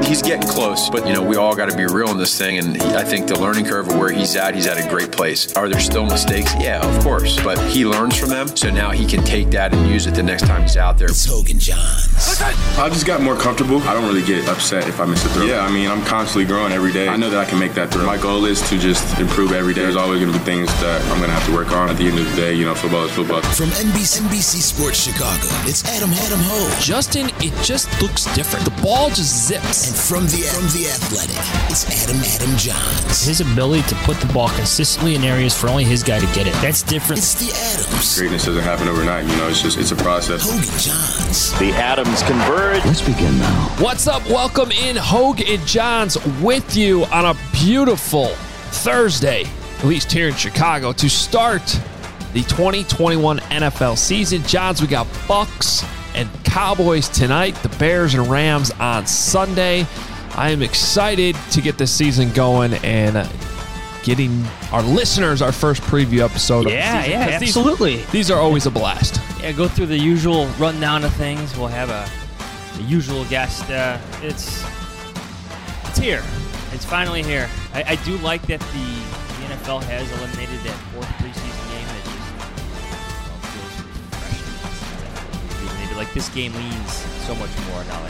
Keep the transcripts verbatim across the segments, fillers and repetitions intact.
he's getting close, but, you know, we all got to be real in this thing, and he, I think the learning curve of where he's at, he's at a great place. Are there still mistakes? Yeah, of course, but he learns from them, so now he can take that and use it the next time he's out there. It's Hoge and Johns. I just got more comfortable. I don't really get upset if I miss a throw. Yeah, I mean, I'm constantly growing every day. I know that I can make that throw. My goal is to just improve every day. There's always going to be things that I'm going to have to work on. At the end of the day, you know, football is football. From N B C, N B C Sports Chicago, it's Adam Adam Hoge. Justin, it just looks different. The ball just zips. And from the from the Athletic, it's Adam Adam Johns. His ability to put the ball consistently in areas for only his guy to get it. That's different. It's the Adams. Greatness doesn't happen overnight. You know, it's just it's a process. Hoge and Johns. The Adams converge. Let's begin now. What's up? Welcome in, Hoge and Johns, with you on a beautiful Thursday, at least here in Chicago, to start the twenty twenty-one N F L season. Johns, we got Bucks and Cowboys tonight, the Bears and Rams on Sunday. I am excited to get this season going and getting our listeners our first preview episode of Yeah, the season. yeah, These- absolutely. These are always a blast. Yeah, go through the usual rundown of things. We'll have a the usual guest. Uh, it's it's here. It's finally here. I, I do like that the, the N F L has eliminated that fourth preseason game. That just you know, feels refreshing. Rejuvenated. Like this game leans so much more now.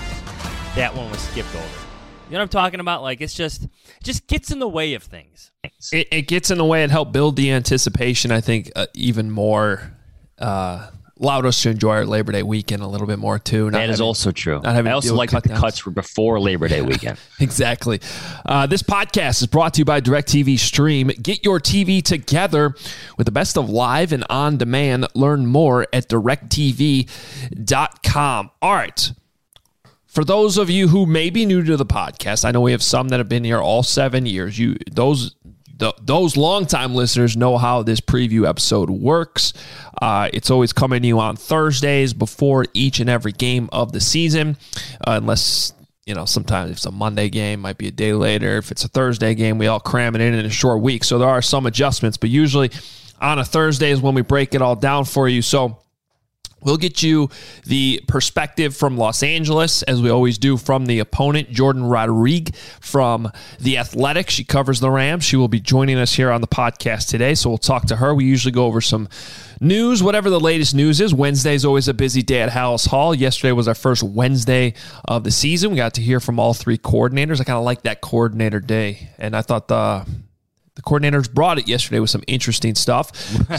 That that one was skipped over. You know what I'm talking about? Like it's just it just gets in the way of things. It, it gets in the way. It helped build the anticipation, I think, uh, even more. Uh, allowed us to enjoy our Labor Day weekend a little bit more, too. That is also true. Not having I to also deal with like that the cut-downs. cuts were before Labor Day weekend. Exactly. Uh, this podcast is brought to you by DirecTV Stream. Get your T V together with the best of live and on demand. Learn more at direct T V dot com. All right. For those of you who may be new to the podcast, I know we have some that have been here all seven years. You those th- those longtime listeners know how this preview episode works. Uh, it's always coming to you on Thursdays before each and every game of the season, uh, unless you know sometimes if it's a Monday game, might be a day later. If it's a Thursday game, we all cram it in in a short week. So there are some adjustments, but usually on a Thursday is when we break it all down for you. So we'll get you the perspective from Los Angeles, as we always do, from the opponent, Jordan Rodrigue from The Athletic. She covers the Rams. She will be joining us here on the podcast today, so we'll talk to her. We usually go over some news, whatever the latest news is. Wednesday is always a busy day at Hallis Hall. Yesterday was our first Wednesday of the season. We got to hear from all three coordinators. I kind of like that coordinator day, and I thought the... The coordinators brought it yesterday with some interesting stuff.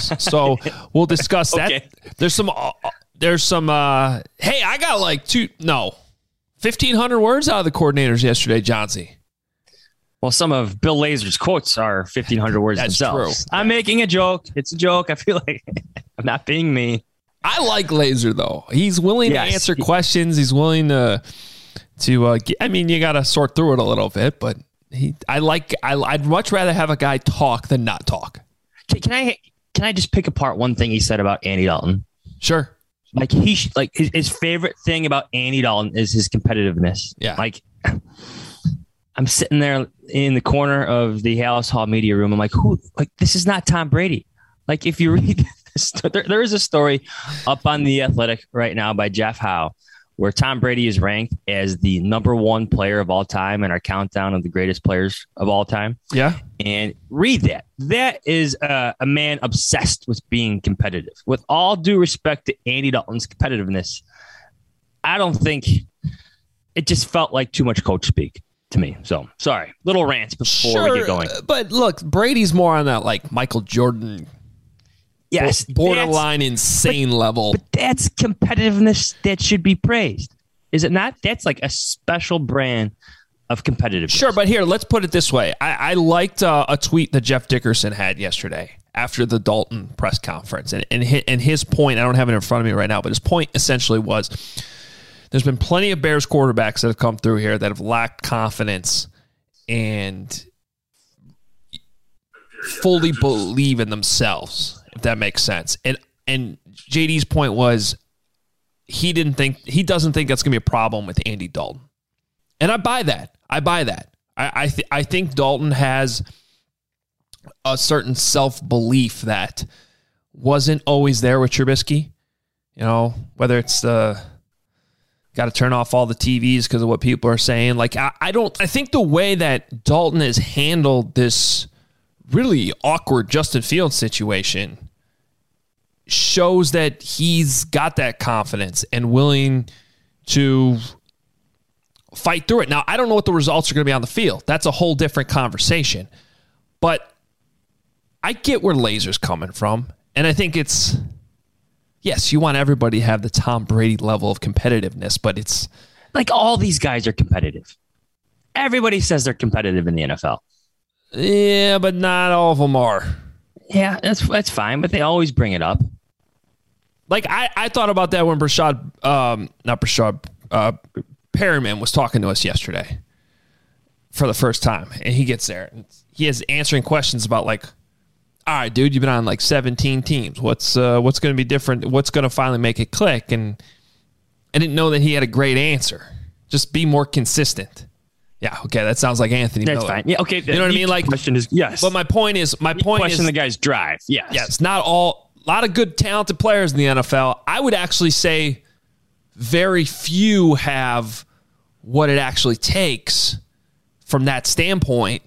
So we'll discuss that. Okay. There's some, uh, there's some, uh, hey, I got like two, no, fifteen hundred words out of the coordinators yesterday, Johnsy. Well, some of Bill Lazor's quotes are fifteen hundred words That's themselves. true. I'm making a joke. It's a joke. I feel like I'm not being mean. I like Laser, though. He's willing Yes. to answer questions. He's willing to, to uh, get, I mean, you got to sort through it a little bit, but he, I like, I, I'd much rather have a guy talk than not talk. Can, can I can I just pick apart one thing he said about Andy Dalton? Sure. Like he sh- like his, his favorite thing about Andy Dalton is his competitiveness. Yeah. Like I'm sitting there in the corner of the Hallis Hall media room. I'm like, who? Like this is not Tom Brady. Like if you read this, there, there is a story up on The Athletic right now by Jeff Howe, where Tom Brady is ranked as the number one player of all time in our countdown of the greatest players of all time. Yeah. And read that. That is uh, a man obsessed with being competitive. With all due respect to Andy Dalton's competitiveness, I don't think it just felt like too much coach speak to me. So sorry, little rants before Sure, we get going. But look, Brady's more on that like Michael Jordan, Yes, borderline that's- insane level. But that's competitiveness that should be praised, is it not? That's like a special brand of competitiveness. Sure, but here, let's put it this way. I, I liked uh, a tweet that Jeff Dickerson had yesterday after the Dalton press conference. And, and, his, and his point, I don't have it in front of me right now, but his point essentially was there's been plenty of Bears quarterbacks that have come through here that have lacked confidence and fully believe in themselves, if that makes sense. And and J D's point was he didn't think he doesn't think that's going to be a problem with Andy Dalton. And I buy that. I buy that. I I, th- I think Dalton has a certain self-belief that wasn't always there with Trubisky. You know, whether it's the got to turn off all the T Vs because of what people are saying. Like, I, I don't, I think the way that Dalton has handled this really awkward Justin Fields situation shows that he's got that confidence and willing to fight through it. Now, I don't know what the results are going to be on the field. That's a whole different conversation. But I get where Lazer's coming from. And I think it's, yes, you want everybody to have the Tom Brady level of competitiveness, but it's like all these guys are competitive. Everybody says they're competitive in the N F L. Yeah, but not all of them are. Yeah, that's that's fine, but they always bring it up. Like, I, I thought about that when Brashad, um, not Brashad, uh, Perryman was talking to us yesterday for the first time. And he gets there. And he is answering questions about, like, all right, dude, you've been on, like, seventeen teams. What's uh, what's going to be different? What's going to finally make it click? And I didn't know that he had a great answer. Just be more consistent. Yeah, okay, that sounds like Anthony That's Miller. fine. Yeah, okay. You know what I mean? Like, question is yes. But my point is, my You point question is, the guy's drive. Yes. yes, not all. A lot of good, talented players in the N F L. I would actually say very few have what it actually takes from that standpoint.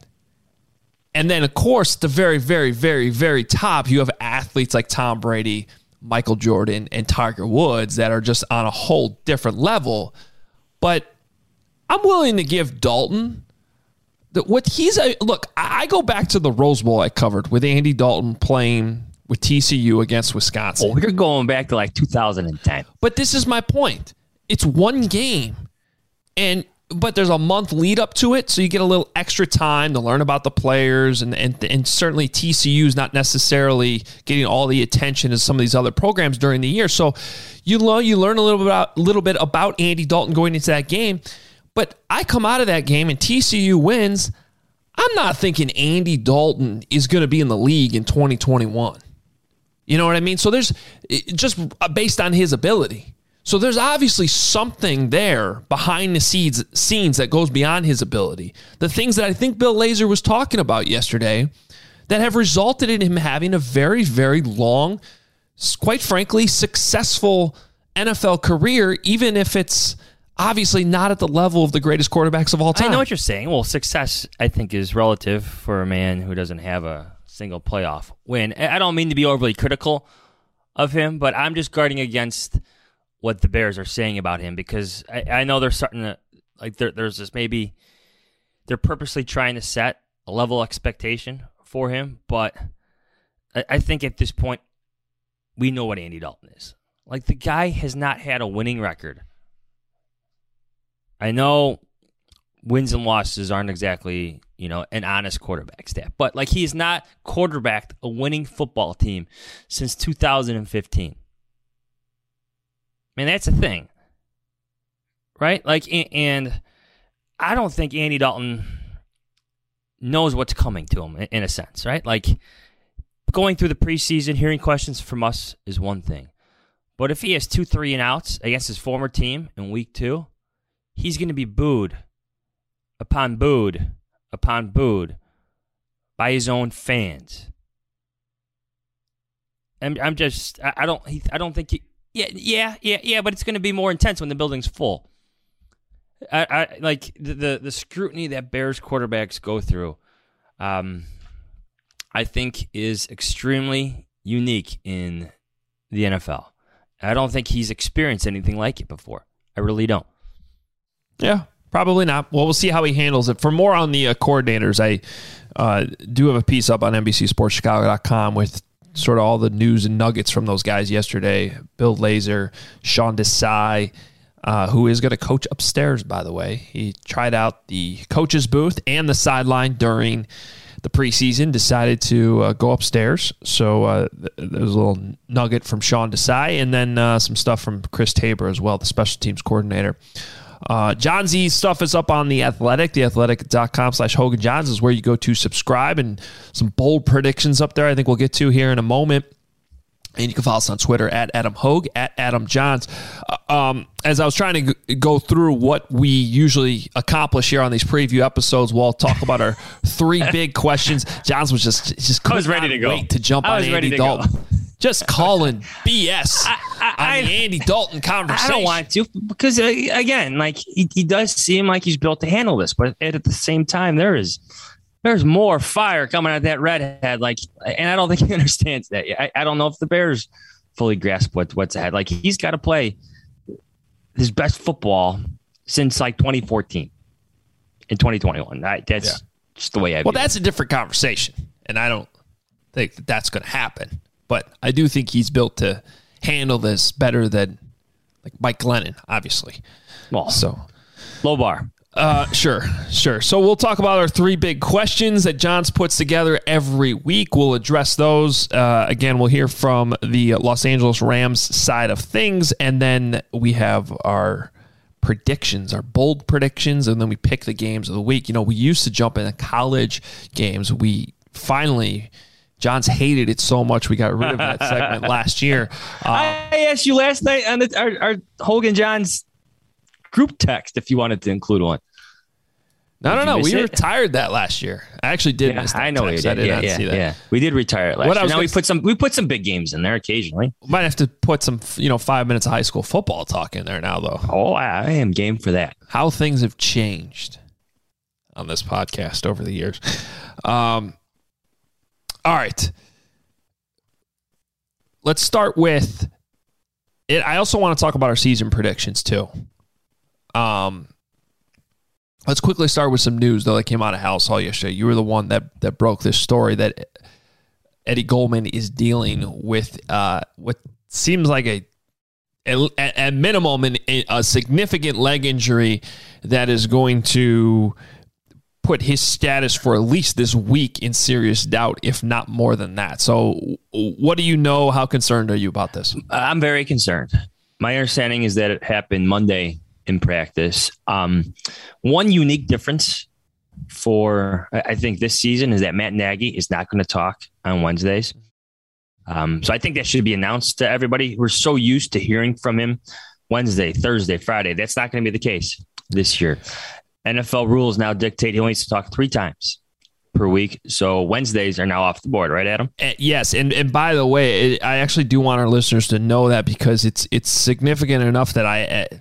And then, of course, the very, very, very, very top, you have athletes like Tom Brady, Michael Jordan, and Tiger Woods that are just on a whole different level. But I'm willing to give Dalton that what he's a look. I go back to the Rose Bowl I covered with Andy Dalton playing with T C U against Wisconsin. Oh, we're going back to like two thousand ten. But this is my point. It's one game, and but there's a month lead up to it, so you get a little extra time to learn about the players, and and, and certainly T C U is not necessarily getting all the attention as some of these other programs during the year. So you learn you learn a little bit about little bit about Andy Dalton going into that game. But I come out of that game and T C U wins. I'm not thinking Andy Dalton is going to be in the league in twenty twenty-one. You know what I mean? So there's just based on his ability. So there's obviously something there behind the scenes, scenes that goes beyond his ability. The things that I think Bill Lazor was talking about yesterday that have resulted in him having a very, very long, quite frankly, successful N F L career, even if it's obviously not at the level of the greatest quarterbacks of all time. I know what you're saying. Well, success, I think, is relative for a man who doesn't have a single playoff win. I don't mean to be overly critical of him, but I'm just guarding against what the Bears are saying about him because I, I know they're starting to, like, there, there's this maybe they're purposely trying to set a level expectation for him, but I, I think at this point, we know what Andy Dalton is. Like, the guy has not had a winning record. I know wins and losses aren't exactly, you know, an honest quarterback stat, but like he's not quarterbacked a winning football team since two thousand fifteen. Man, that's a thing, right? Like, and I don't think Andy Dalton knows what's coming to him in a sense, right? Like, going through the preseason, hearing questions from us is one thing, but if he has two, three and outs against his former team in week two, he's going to be booed upon booed upon booed by his own fans. I'm, I'm just, I, I don't, I don't think he, yeah, yeah, yeah, yeah, but it's going to be more intense when the building's full. I, I like the, the the scrutiny that Bears quarterbacks go through. Um, I think is extremely unique in the N F L. I don't think he's experienced anything like it before. I really don't. Yeah, probably not. Well, we'll see how he handles it. For more on the uh, coordinators, I uh, do have a piece up on N B C Sports Chicago dot com with sort of all the news and nuggets from those guys yesterday. Bill Lazor, Sean Desai, uh, who is going to coach upstairs, by the way. He tried out the coach's booth and the sideline during the preseason, decided to uh, go upstairs. So uh, th- there was a little nugget from Sean Desai, and then uh, some stuff from Chris Tabor as well, the special teams coordinator. Uh, John Z's stuff is up on The Athletic. The athletic dot com slash Hogan Johns is where you go to subscribe, and some bold predictions up there I think we'll get to here in a moment. And you can follow us on Twitter at Adam Hogue, at Adam Johns. Uh, um, as I was trying to g- go through what we usually accomplish here on these preview episodes, we'll talk about our three big questions. Johns was just just I was ready to go. Wait to jump I on was Andy ready to Dalton. go. just calling B S I, I, on the Andy Dalton conversation. I don't want to because, uh, again, like he, he does seem like he's built to handle this. But at the same time, there is there's more fire coming out of that redhead. Like, and I don't think he understands that yet. I, I don't know if the Bears fully grasp what, what's ahead. Like, he's got to play his best football since like twenty fourteen in twenty twenty-one. I, that's yeah. just the way I Well, view that's it. a different conversation. And I don't think that that's going to happen. But I do think he's built to handle this better than like Mike Glennon, obviously. Well, so low bar. Uh, sure, sure. So we'll talk about our three big questions that Johns puts together every week. We'll address those. Uh, again, we'll hear from the Los Angeles Rams side of things, and then we have our predictions, our bold predictions, and then we pick the games of the week. You know, we used to jump into college games. We finally... Johns hated it so much we got rid of that segment last year. Um, I asked you last night on the, our, our Hogan Johns group text if you wanted to include one. No, did no, no. We it? retired that last year. I actually did Yeah, miss that I know text. we I did. did Yeah, not yeah, see that. yeah. We did retire it last What I year. was Now we gonna put some we put some big games in there occasionally. Might have to put some, you know, five minutes of high school football talk in there now, though. Oh, I, I am game for that. How things have changed on this podcast over the years. Um, all right. Let's start with it. I also want to talk about our season predictions too. Um, let's quickly start with some news though that came out of House Hall yesterday. You were the one that that broke this story that Eddie Goldman is dealing with uh, what seems like a at, at minimum an, a significant leg injury that is going to put his status for at least this week in serious doubt, if not more than that. So what do you know? How concerned are you about this? I'm very concerned. My understanding is that it happened Monday in practice. Um, one unique difference for, I think, this season is that Matt Nagy is not going to talk on Wednesdays. Um, so I think that should be announced to everybody. We're so used to hearing from him Wednesday, Thursday, Friday. That's not going to be the case this year. N F L rules now dictate he only needs to talk three times per week. So Wednesdays are now off the board, right, Adam? Uh, yes. And and by the way, it, I actually do want our listeners to know that because it's it's significant enough that I, uh,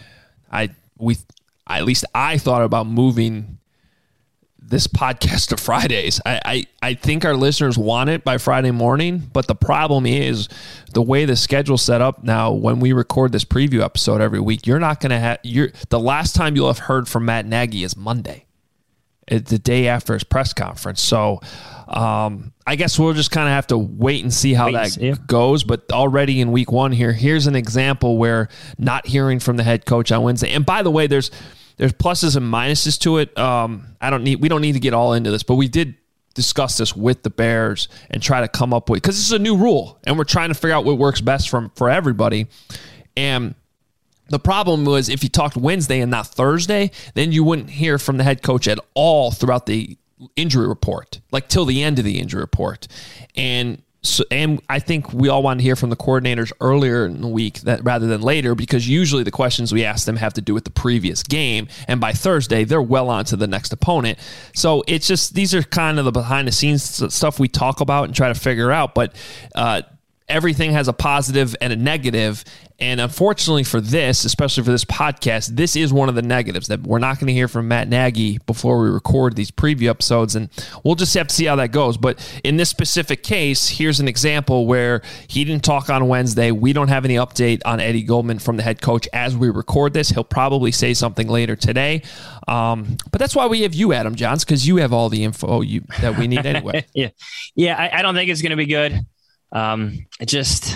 I we at least I thought about moving this podcast to Fridays. I, I, I think our listeners want it by Friday morning, but the problem is the way the schedule's set up now. When we record this preview episode every week, you're not going to have you're the last time you'll have heard from Matt Nagy is Monday, it's the day after his press conference. So um, I guess we'll just kind of have to wait and see how Wait, that yeah. goes. But already in week one here, here's an example where not hearing from the head coach on Wednesday. And by the way, there's There's pluses and minuses to it. Um, I don't need. We don't need to get all into this, but we did discuss this with the Bears and try to come up with, because this is a new rule, and we're trying to figure out what works best for for everybody. And the problem was if you talked Wednesday and not Thursday, then you wouldn't hear from the head coach at all throughout the injury report, like till the end of the injury report. And So, and I think we all want to hear from the coordinators earlier in the week that rather than later, because usually the questions we ask them have to do with the previous game. And by Thursday, they're well on to the next opponent. So it's just, these are kind of the behind the scenes stuff we talk about and try to figure out. But uh, everything has a positive and a negative. And unfortunately for this, especially for this podcast, this is one of the negatives, that we're not going to hear from Matt Nagy before we record these preview episodes, and we'll just have to see how that goes. But in this specific case, here's an example where he didn't talk on Wednesday. We don't have any update on Eddie Goldman from the head coach as we record this. He'll probably say something later today. Um, but that's why we have you, Adam Johns, because you have all the info you, that we need anyway. yeah, yeah. I, I don't think it's going to be good. Um, it just...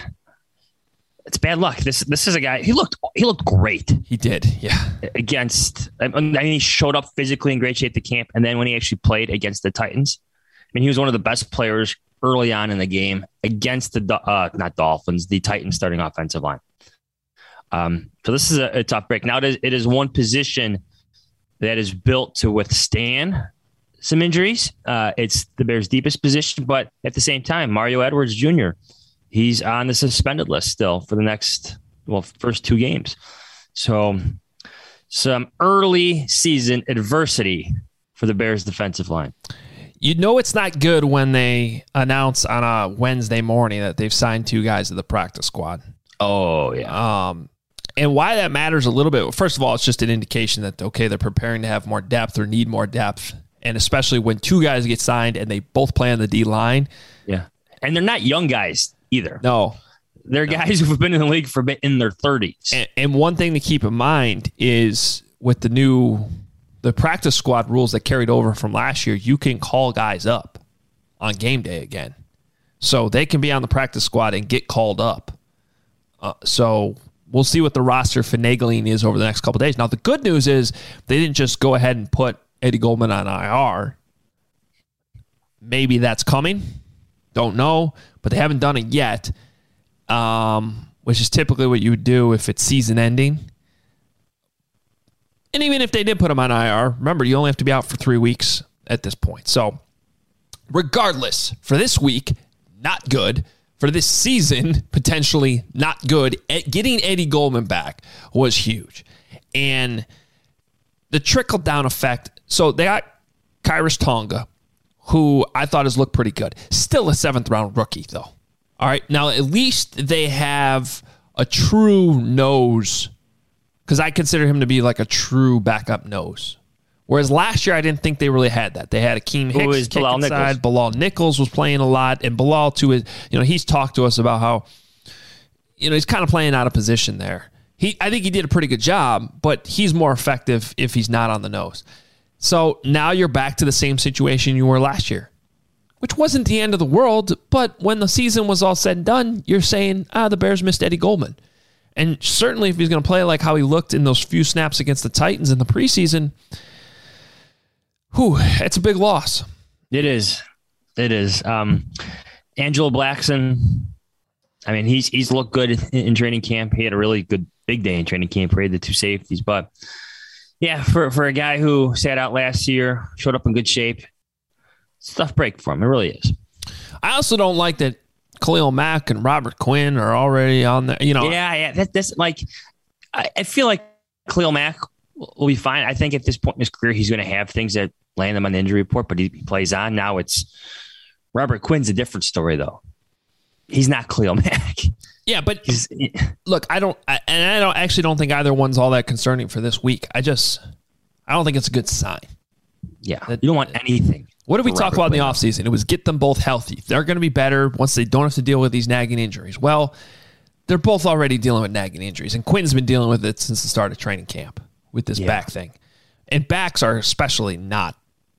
It's bad luck. This this is a guy. He looked he looked great. He did, yeah. Against, I mean, he showed up physically in great shape to camp, and then when he actually played against the Titans, I mean, he was one of the best players early on in the game against the uh, not Dolphins, the Titans starting offensive line. Um, so this is a, a tough break. Now it is, it is one position that is built to withstand some injuries. Uh, it's the Bears' deepest position, but at the same time, Mario Edwards Junior, he's on the suspended list still for the next, well, first two games. So some early season adversity for the Bears defensive line. You know it's not good when they announce on a Wednesday morning that they've signed two guys to the practice squad. Oh, yeah. Um, and why that matters a little bit, first of all, it's just an indication that, okay, they're preparing to have more depth or need more depth. And especially when two guys get signed and they both play on the D-line. Yeah. And they're not young guys either. No. They're guys who've been in the league for in their thirties. And, and one thing to keep in mind is with the new the practice squad rules that carried over from last year, you can call guys up on game day again. So they can be on the practice squad and get called up. Uh, so we'll see what the roster finagling is over the next couple of days. Now, the good news is they didn't just go ahead and put Eddie Goldman on I R. Maybe that's coming. Don't know, but they haven't done it yet, um, which is typically what you would do if it's season ending. And even if they did put him on I R, remember, you only have to be out for three weeks at this point. So regardless, for this week, not good. For this season, potentially not good. Getting Eddie Goldman back was huge. And the trickle-down effect, so they got Khyiris Tonga, who I thought has looked pretty good. Still a seventh-round rookie, though. All right, now at least they have a true nose, because I consider him to be like a true backup nose. Whereas last year, I didn't think they really had that. They had Akeem Hicks, Who is Bilal inside. Bilal Nichols was playing a lot, and Bilal too is, you know, he's talked to us about how, you know, he's kind of playing out of position there. He, I think he did a pretty good job, but he's more effective if he's not on the nose. So now you're back to the same situation you were last year, which wasn't the end of the world. But when the season was all said and done, you're saying, ah, the Bears missed Eddie Goldman. And certainly if he's going to play like how he looked in those few snaps against the Titans in the preseason, whew, it's a big loss. It is. It is. Um, Angelo Blackson, I mean, he's he's looked good in, in training camp. He had a really good big day in training camp. He had the two safeties. But, yeah, for, for a guy who sat out last year, showed up in good shape, it's a tough break for him. It really is. I also don't like that Khalil Mack and Robert Quinn are already on there. You know, yeah, yeah. That, that's like, I, I feel like Khalil Mack will be fine. I think at this point in his career, he's going to have things that land him on the injury report, but he, he plays on. Now it's Robert Quinn's a different story, though. He's not Khalil Mack. Yeah, but he's, look, I don't, I, and I don't actually don't think either one's all that concerning for this week. I just, I don't think it's a good sign. Yeah, that, you don't want anything. What did we talk about in the offseason? It was get them both healthy. They're going to be better once they don't have to deal with these nagging injuries. Well, they're both already dealing with nagging injuries, and Quinn's been dealing with it since the start of training camp with this yeah. back thing. And backs are especially not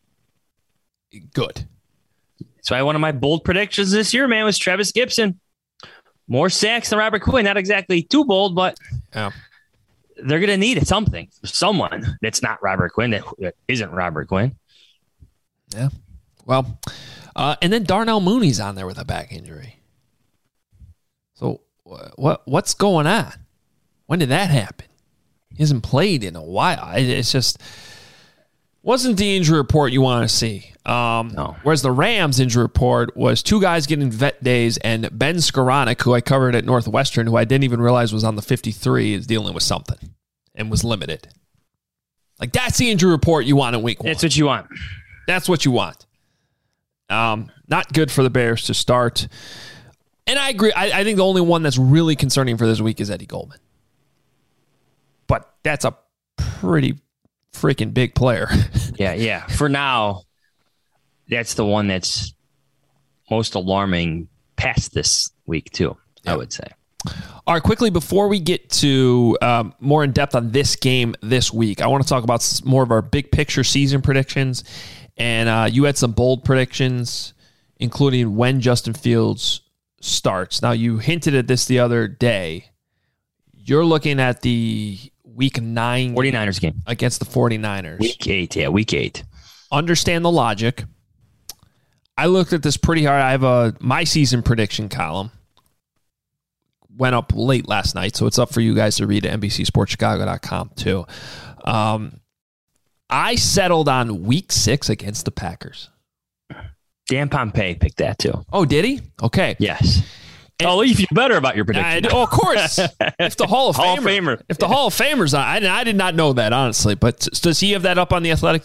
good. That's why one of my bold predictions this year, man, was Travis Gibson. More sacks than Robert Quinn. Not exactly too bold, but yeah. they're going to need something. Someone that's not Robert Quinn, that isn't Robert Quinn. Yeah. Well, uh, and then Darnell Mooney's on there with a back injury. So what what's going on? When did that happen? He hasn't played in a while. It's just wasn't the injury report you want to see. Um, no. Whereas the Rams injury report was two guys getting vet days, and Ben Skoranek, who I covered at Northwestern, who I didn't even realize was on the fifty-three, is dealing with something and was limited. Like, that's the injury report you want in week one. That's what you want. That's what you want. Um, not good for the Bears to start. And I agree. I, I think the only one that's really concerning for this week is Eddie Goldman. But that's a pretty freaking big player. yeah, yeah. For now, that's the one that's most alarming past this week, too, yeah. I would say. All right, quickly, before we get to um, more in depth on this game this week, I want to talk about more of our big picture season predictions. And uh, you had some bold predictions, including when Justin Fields starts. Now, you hinted at this the other day. You're looking at the week nine 49ers game against the 49ers. Week eight, yeah, week eight. Understand the logic. I looked at this pretty hard. I have a my season prediction column. Went up late last night, so it's up for you guys to read at N B C Sports Chicago dot com too. Um, I settled on week six against the Packers. Dan Pompei picked that too. Oh, did he? Okay. Yes. And, oh, you feel better about your prediction. I, oh, of course. If the Hall of Hall Famer, of Famer, if the Hall of Famers, I, I did not know that honestly. But does he have that up on the Athletic too?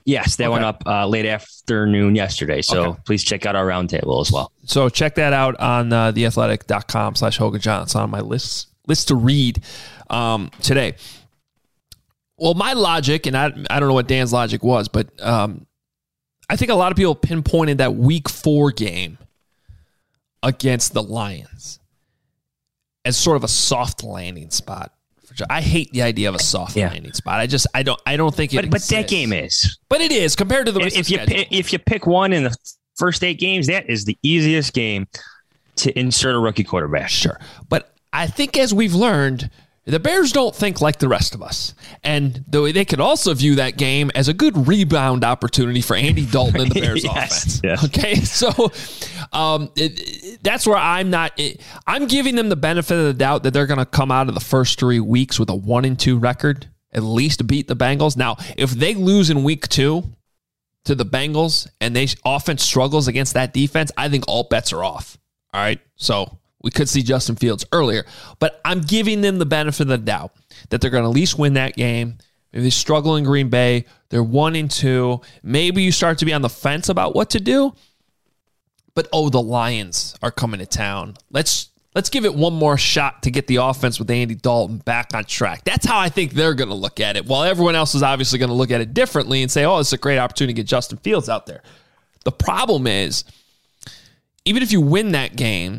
Yes, that Okay. went up uh, late afternoon yesterday. So Okay. please check out our roundtable as well. So check that out on uh, theathletic.com slash Hogan John. It's on my list list to read um, today. Well, my logic, and I, I don't know what Dan's logic was, but um, I think a lot of people pinpointed that week four game against the Lions as sort of a soft landing spot. I hate the idea of a soft Yeah. landing spot. I just I don't I don't think it. But, but that exists. game is. But it is compared to the rest If of you the schedule. pi- if you pick one in the first eight games, that is the easiest game to insert a rookie quarterback. Sure. But I think as we've learned, the Bears don't think like the rest of us. And though they could also view that game as a good rebound opportunity for Andy Dalton and the Bears Yes, offense. yes. Okay. So um, it, it- that's where I'm not, it, I'm giving them the benefit of the doubt that they're going to come out of the first three weeks with a one and two record, at least beat the Bengals. Now, if they lose in week two to the Bengals and they offense struggles against that defense, I think all bets are off. All right. So we could see Justin Fields earlier, but I'm giving them the benefit of the doubt that they're going to at least win that game. Maybe they struggle in Green Bay. They're one and two. Maybe you start to be on the fence about what to do. But oh, the Lions are coming to town. Let's let's give it one more shot to get the offense with Andy Dalton back on track. That's how I think they're going to look at it. While everyone else is obviously going to look at it differently and say, "Oh, it's a great opportunity to get Justin Fields out there." The problem is, even if you win that game,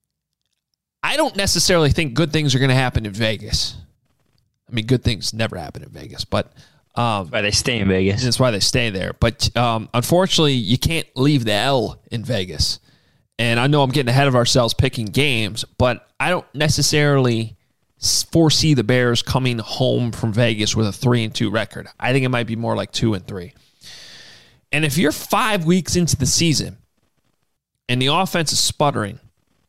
I don't necessarily think good things are going to happen in Vegas. I mean, good things never happen in Vegas, but um, Why they stay in Vegas. that's why they stay there. But um, unfortunately, you can't leave the L in Vegas. And I know I'm getting ahead of ourselves picking games, but I don't necessarily s- foresee the Bears coming home from Vegas with a three and two record. I think it might be more like two and three. And if you're five weeks into the season and the offense is sputtering,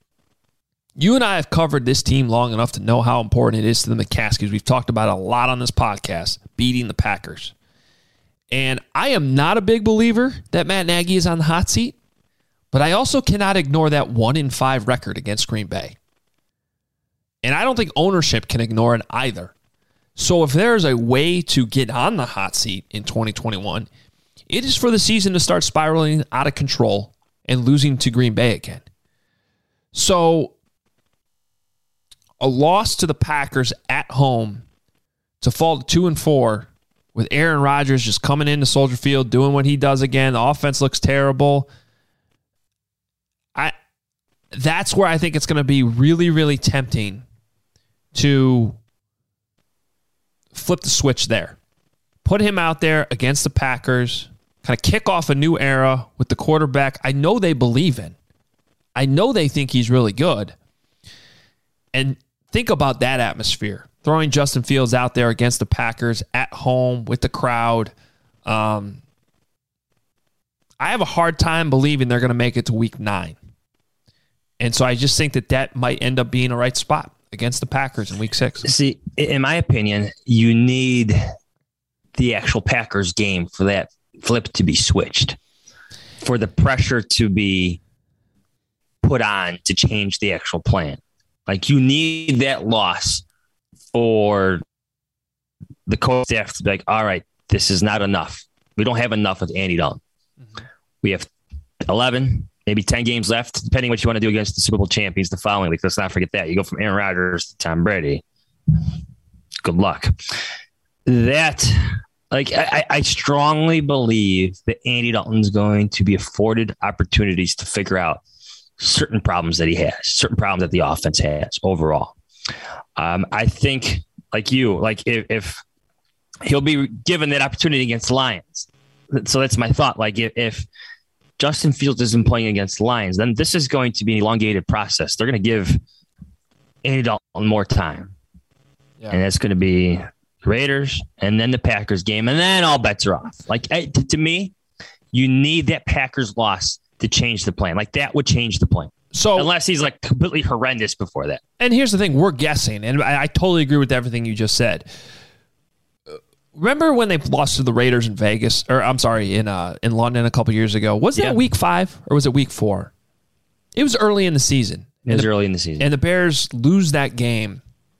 you and I have covered this team long enough to know how important it is to the McCaskies. We've talked about it a lot on this podcast, beating the Packers. And I am not a big believer that Matt Nagy is on the hot seat, but I also cannot ignore that one in five record against Green Bay. And I don't think ownership can ignore it either. So if there's a way to get on the hot seat in twenty twenty-one, it is for the season to start spiraling out of control and losing to Green Bay again. So a loss to the Packers at home to fall to two and four with Aaron Rodgers just coming into Soldier Field, doing what he does again. The offense looks terrible. I that's where I think it's going to be really, really tempting to flip the switch there. Put him out there against the Packers, kind of kick off a new era with the quarterback I know they believe in. I know they think he's really good. And think about that atmosphere. Throwing Justin Fields out there against the Packers at home with the crowd. Um, I have a hard time believing they're going to make it to week nine. And so I just think that that might end up being a right spot against the Packers in week six. See, in my opinion, you need the actual Packers game for that flip to be switched, for the pressure to be put on to change the actual plan. Like, you need that loss for the coach staff to be like, all right, this is not enough. We don't have enough with Andy Dalton. Mm-hmm. We have eleven, maybe ten games left, depending what you want to do against the Super Bowl champions the following week. Let's not forget that. You go from Aaron Rodgers to Tom Brady. Good luck. That, like, I, I strongly believe that Andy Dalton's going to be afforded opportunities to figure out certain problems that he has, certain problems that the offense has overall. Um, I think, like you, like if, if he'll be given that opportunity against the Lions. So that's my thought. Like if, if Justin Fields isn't playing against the Lions, then this is going to be an elongated process. They're going to give Andy Dalton more time. Yeah. And that's going to be the Raiders and then the Packers game. And then all bets are off. Like I, to, to me, you need that Packers loss to change the plan. Like that would change the plan. So unless he's like completely horrendous before that. And here's the thing, we're guessing, and I, I totally agree with everything you just said. Remember when they lost to the Raiders in Vegas, or I'm sorry, in uh, in London a couple years ago? Was that yeah. week five or was it week four? It was early in the season. It was the, early in the season. And the Bears lose that game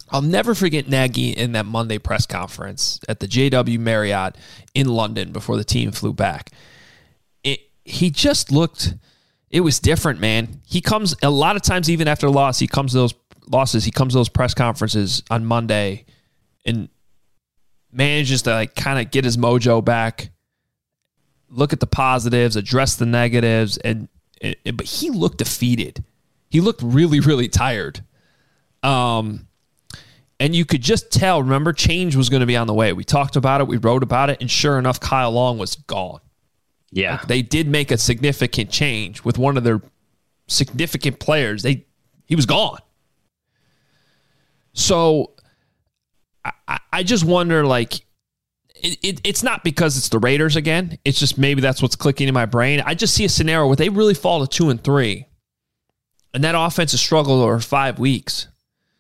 I'll never forget Nagy in that Monday press conference at the J W Marriott in London before the team flew back. It, he just looked, it was different, man. He comes, a lot of times, even after a loss, he comes to those losses, he comes to those press conferences on Monday and manages to like kind of get his mojo back, look at the positives, address the negatives, and, and but he looked defeated. He looked really, really tired. Um, And you could just tell, remember, change was going to be on the way. We talked about it. We wrote about it. And sure enough, Kyle Long was gone. Yeah. Like, they did make a significant change with one of their significant players. They He was gone. So I, I just wonder, like, it, it, it's not because it's the Raiders again. It's just maybe that's what's clicking in my brain. I just see a scenario where they really fall to two and three. And that offense has struggled over five weeks.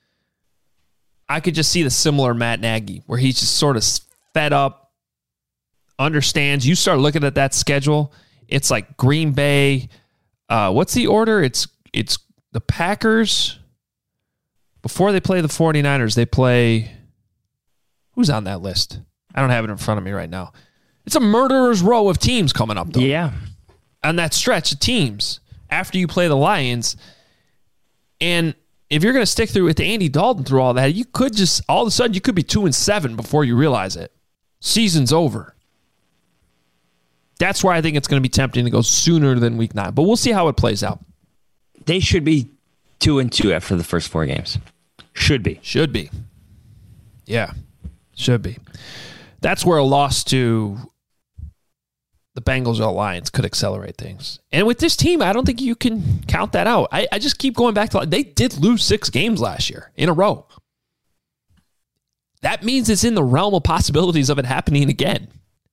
I could just see the similar Matt Nagy, where he's just sort of fed up, understands. You start looking at that schedule, it's like Green Bay. Uh, what's the order? It's it's the Packers. Before they play the 49ers, they play... Who's on that list? I don't have it in front of me right now. It's a murderer's row of teams coming up, though. Yeah. On that stretch of teams after you play the Lions. And if you're going to stick through with Andy Dalton through all that, you could just, all of a sudden, you could be two and seven before you realize it. Season's over. That's why I think it's going to be tempting to go sooner than week nine. But we'll see how it plays out. They should be two and two after the first four games. Should be. Should be. Yeah, should be. That's where a loss to the Bengals or Lions could accelerate things. And with this team, I don't think you can count that out. I, I just keep going back to, they did lose six games last year in a row. That means it's in the realm of possibilities of it happening again.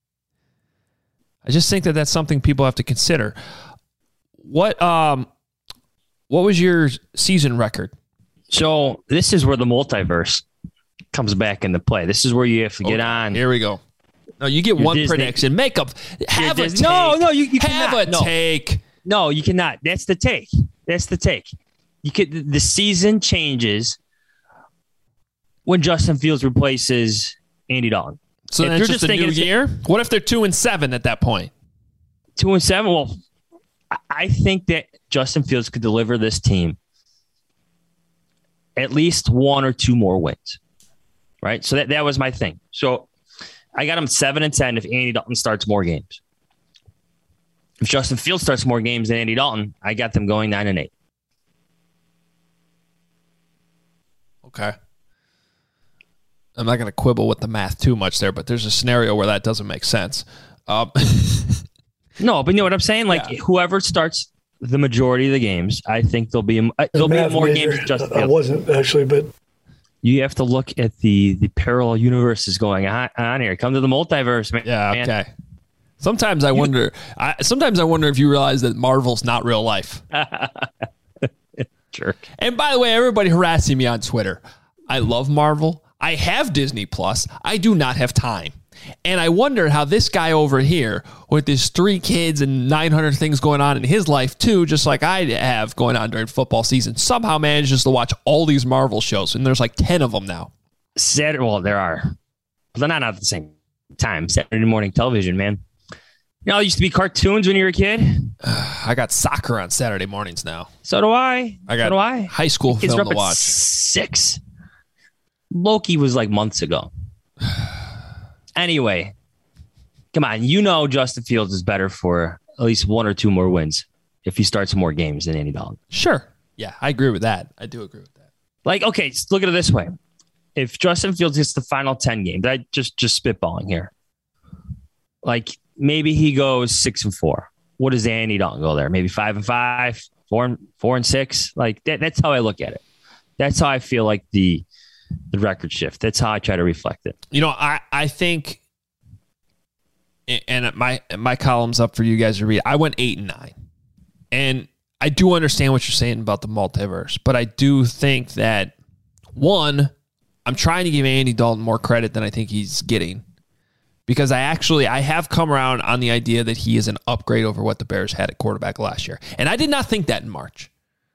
I just think that that's something people have to consider. What um, what was your season record? So this is where the multiverse comes back into play. This is where you have to get Okay, on. Here we go. No, you get Your one Disney- prediction. Make up. Have a Disney- take. No, no, you- you have cannot. a No. take. No, you cannot. That's the take. That's the take. You could. The season changes when Justin Fields replaces Andy Dalton. So If then you're it's just, just a thinking new it's- year? What if they're two and seven at that point? Two and seven. Well, I- I think that Justin Fields could deliver this team at least one or two more wins. Right. So that, that was my thing. So I got him seven and ten if Andy Dalton starts more games. If Justin Fields starts more games than Andy Dalton, I got them going nine and eight. Okay. I'm not going to quibble with the math too much there, but there's a scenario where that doesn't make sense. Um, No, but you know what I'm saying? Like Yeah. whoever starts the majority of the games, I think there'll be uh, there'll be Math more major, games than Justin I Fields. wasn't actually, but You have to look at the the parallel universes going on, on here. Come to the multiverse, man. yeah, man. okay. Sometimes I wonder I, sometimes I wonder if you realize that Marvel's not real life. Jerk. And by the way, everybody harassing me on Twitter, I love Marvel. I have Disney Plus. I do not have time. And I wonder how this guy over here, with his three kids and nine hundred things going on in his life too, just like I have going on during football season, somehow manages to watch all these Marvel shows. And there's like ten of them now. Saturday, well, there are, but they're not at the same time. Saturday morning television, man. You know, it used to be cartoons when you were a kid. I got soccer on Saturday mornings now. So do I. I got so do I. high school Kids are film up to at watch. six. Loki was like months ago. Anyway, come on. You know Justin Fields is better for at least one or two more wins if he starts more games than Andy Dalton. Sure. Yeah, I agree with that. I do agree with that. Like, okay, just look at it this way. If Justin Fields gets the final ten games, I just just spitballing here. Like maybe he goes six and four. What does Andy Dalton go there? Maybe five and five, four and four and six. Like that, that's how I look at it. That's how I feel like the the record shift. That's how I try to reflect it. You know, I, I think, and my my column's up for you guys to read. I went eight and nine, and I do understand what you're saying about the multiverse, but I do think that one, I'm trying to give Andy Dalton more credit than I think he's getting, because I actually I have come around on the idea that he is an upgrade over what the Bears had at quarterback last year, and I did not think that in March.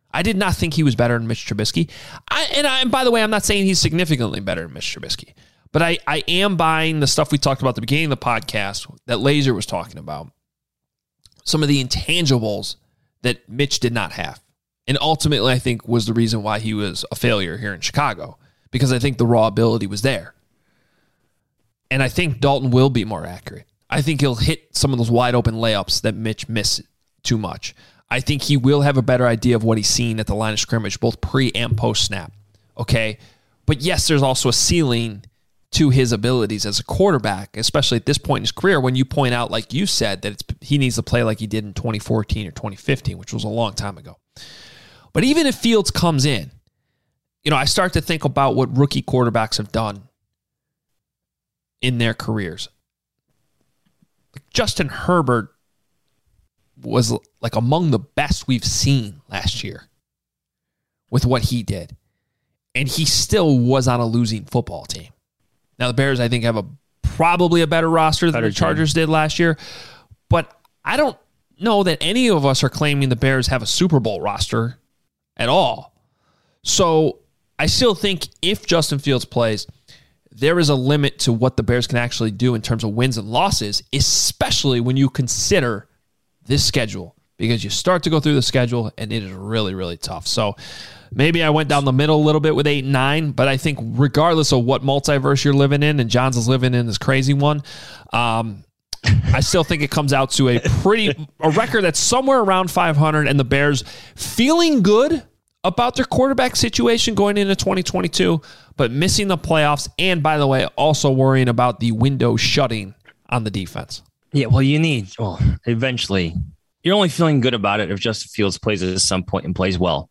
I did not think he was better than Mitch Trubisky. I, and, I, and by the way, I'm not saying he's significantly better than Mitch Trubisky. But I, I am buying the stuff we talked about at the beginning of the podcast that Laser was talking about. Some of the intangibles that Mitch did not have. And ultimately, I think, was the reason why he was a failure here in Chicago. Because I think the raw ability was there. And I think Dalton will be more accurate. I think he'll hit some of those wide open layups that Mitch missed too much. I think he will have a better idea of what he's seen at the line of scrimmage, both pre and post snap. Okay? But yes, there's also a ceiling to his abilities as a quarterback, especially at this point in his career, when you point out, like you said, that it's, he needs to play like he did in twenty fourteen or twenty fifteen, which was a long time ago. But even if Fields comes in, you know, I start to think about what rookie quarterbacks have done in their careers. Justin Herbert was like among the best we've seen last year with what he did. And he still was on a losing football team. Now, the Bears, I think, have a probably a better roster than better the Chargers team. did last year. But I don't know that any of us are claiming the Bears have a Super Bowl roster at all. So I still think if Justin Fields plays, there is a limit to what the Bears can actually do in terms of wins and losses, especially when you consider this schedule. Because you start to go through the schedule, and it is really, really tough. So maybe I went down the middle a little bit with eight and nine, but I think regardless of what multiverse you're living in, and John's is living in this crazy one, um, I still think it comes out to a pretty a record that's somewhere around five hundred, and the Bears feeling good about their quarterback situation going into twenty twenty-two, but missing the playoffs, and by the way, also worrying about the window shutting on the defense. Yeah, well, you need, well, eventually, you're only feeling good about it if Justin Fields plays at some point and plays well.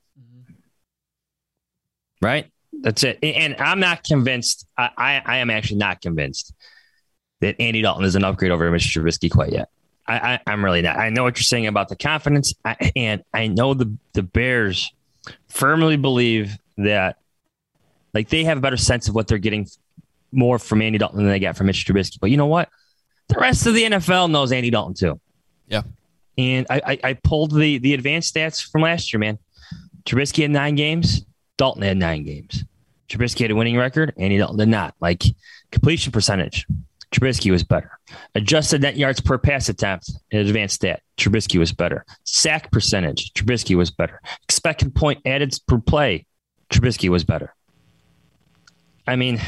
Right? That's it. And I'm not convinced, I, I, I am actually not convinced that Andy Dalton is an upgrade over Mister Trubisky quite yet. I, I, I'm really not. I know what you're saying about the confidence, I, and I know the, the Bears firmly believe that, like, they have a better sense of what they're getting more from Andy Dalton than they got from Mitch Trubisky. But you know what? The rest of the N F L knows Andy Dalton too. Yeah. And I, I, I pulled the, the advanced stats from last year, man. Trubisky had nine games. Dalton had nine games. Trubisky had a winning record. Andy Dalton did not. Like, completion percentage, Trubisky was better. Adjusted net yards per pass attempt, an advanced stat, Trubisky was better. Sack percentage, Trubisky was better. Expected point added per play, Trubisky was better. I mean,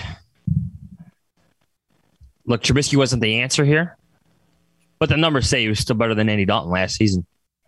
look, Trubisky wasn't the answer here, but the numbers say he was still better than Andy Dalton last season.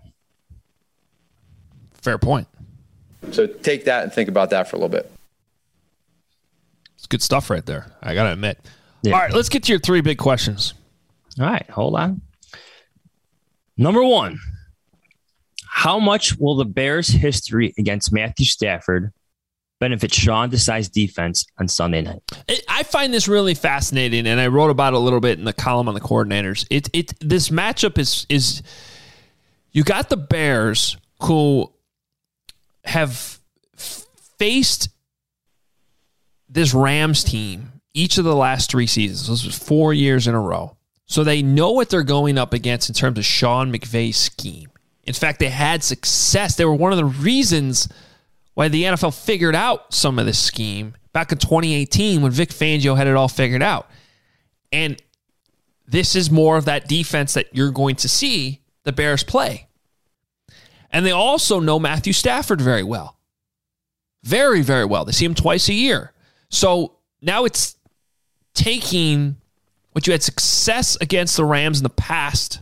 Fair point. So take that and think about that for a little bit. It's good stuff right there, I got to admit. Yeah. All right, let's get to your three big questions. All right, hold on. Number one, how much will the Bears' history against Matthew Stafford benefit Sean Desai's defense on Sunday night? I find this really fascinating, and I wrote about it a little bit in the column on the coordinators. It it this matchup is is you got the Bears who have faced this Rams team each of the last three seasons. This was four years in a row. So they know what they're going up against in terms of Sean McVay's scheme. In fact, they had success. They were one of the reasons why the N F L figured out some of this scheme back in twenty eighteen when Vic Fangio had it all figured out. And this is more of that defense that you're going to see the Bears play. And they also know Matthew Stafford very well. Very, very well. They see him twice a year. So now it's taking what you had success against the Rams in the past,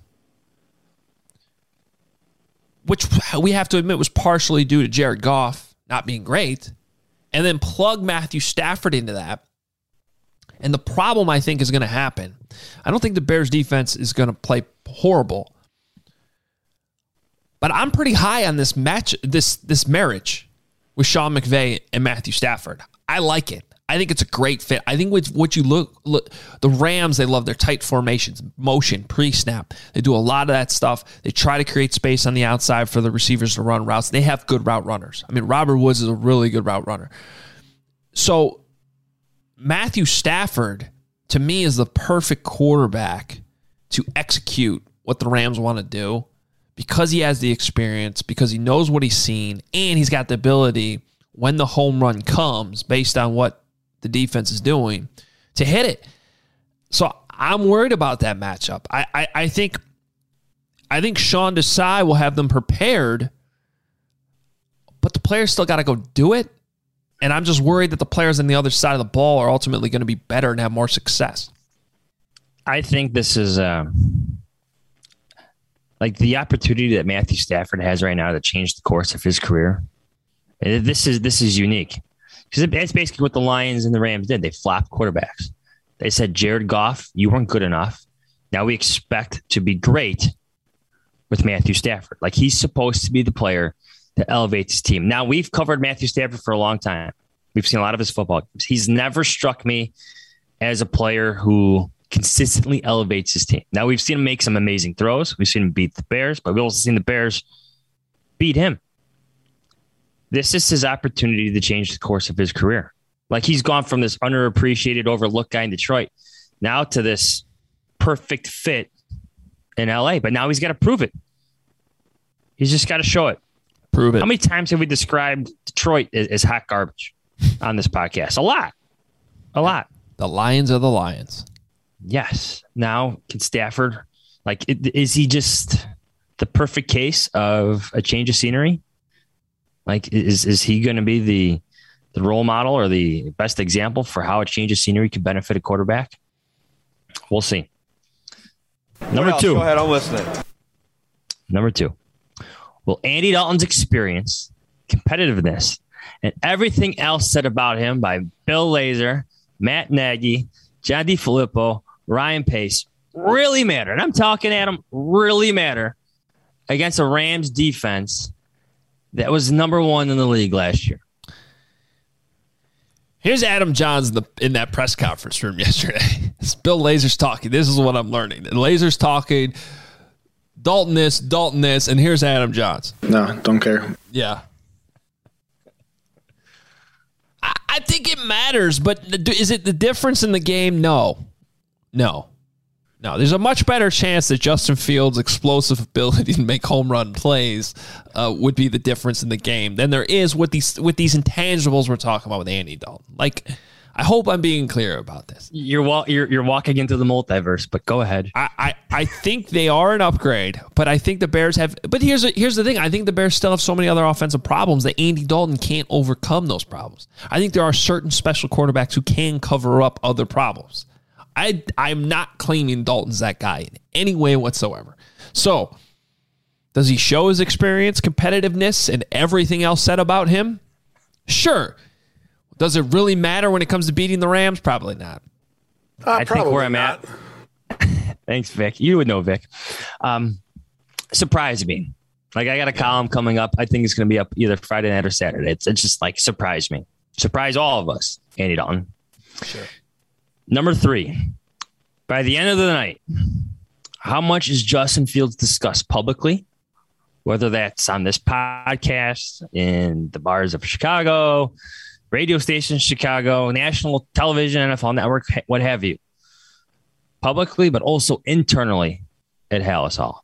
which we have to admit was partially due to Jared Goff not being great, and then plug Matthew Stafford into that. And the problem I think is going to happen, I don't think the Bears defense is going to play horrible, but I'm pretty high on this match, this this marriage with Sean McVay and Matthew Stafford. I like it. I think it's a great fit. I think with what you look, look, the Rams, they love their tight formations, motion, pre-snap. They do a lot of that stuff. They try to create space on the outside for the receivers to run routes. They have good route runners. I mean, Robert Woods is a really good route runner. So Matthew Stafford, to me, is the perfect quarterback to execute what the Rams want to do because he has the experience, because he knows what he's seen, and he's got the ability when the home run comes based on what the defense is doing to hit it. So I'm worried about that matchup. I, I, I think I think Sean Desai will have them prepared, but the players still got to go do it. And I'm just worried that the players on the other side of the ball are ultimately going to be better and have more success. I think this is uh, like the opportunity that Matthew Stafford has right now to change the course of his career. This is this is unique because that's basically what the Lions and the Rams did. They flopped quarterbacks. They said, Jared Goff, you weren't good enough. Now we expect to be great with Matthew Stafford. Like he's supposed to be the player that elevates his team. Now we've covered Matthew Stafford for a long time. We've seen a lot of his football games. He's never struck me as a player who consistently elevates his team. Now we've seen him make some amazing throws. We've seen him beat the Bears, but we've also seen the Bears beat him. This is his opportunity to change the course of his career. Like he's gone from this underappreciated, overlooked guy in Detroit now to this perfect fit in L A. But now he's got to prove it. He's just got to show it. Prove it. How many times have we described Detroit as, as hot garbage on this podcast? A lot. A lot. The Lions are the Lions. Yes. Now, can Stafford, like, is he just the perfect case of a change of scenery? Like, is is he going to be the the role model or the best example for how a change of scenery could benefit a quarterback? We'll see. Number two. Go ahead, I'm listening. Number two. Will Andy Dalton's experience, competitiveness, and everything else said about him by Bill Lazor, Matt Nagy, John DeFilippo, Ryan Pace really matter? And I'm talking, Adam, really matter against a Rams defense that was number one in the league last year. Here's Adam Johns in, the, in that press conference room yesterday. It's Bill Lazor's talking. This is what I'm learning. And Lazor's talking, Dalton this, Dalton this, and here's Adam Johns. No, don't care. Yeah. I, I think it matters, but is it the difference in the game? No. No. No, there's a much better chance that Justin Fields' explosive ability to make home run plays uh, would be the difference in the game than there is with these with these intangibles we're talking about with Andy Dalton. Like, I hope I'm being clear about this. You're wa- you're, you're walking into the multiverse, but go ahead. I, I, I think they are an upgrade, but I think the Bears have. But here's a, here's the thing: I think the Bears still have so many other offensive problems that Andy Dalton can't overcome those problems. I think there are certain special quarterbacks who can cover up other problems. I, I'm not claiming Dalton's that guy in any way whatsoever. So, does he show his experience, competitiveness, and everything else said about him? Sure. Does it really matter when it comes to beating the Rams? Probably not. Uh, I think where I'm not. at. Thanks, Vic. You would know, Vic. Um, surprise me. Like, I got a column coming up. I think it's going to be up either Friday night or Saturday. It's, it's just like, surprise me. Surprise all of us, Andy Dalton. Sure. Number three, by the end of the night, how much is Justin Fields discussed publicly, whether that's on this podcast, in the bars of Chicago, radio stations, Chicago, national television, N F L Network, what have you, publicly, but also internally at Halas Hall?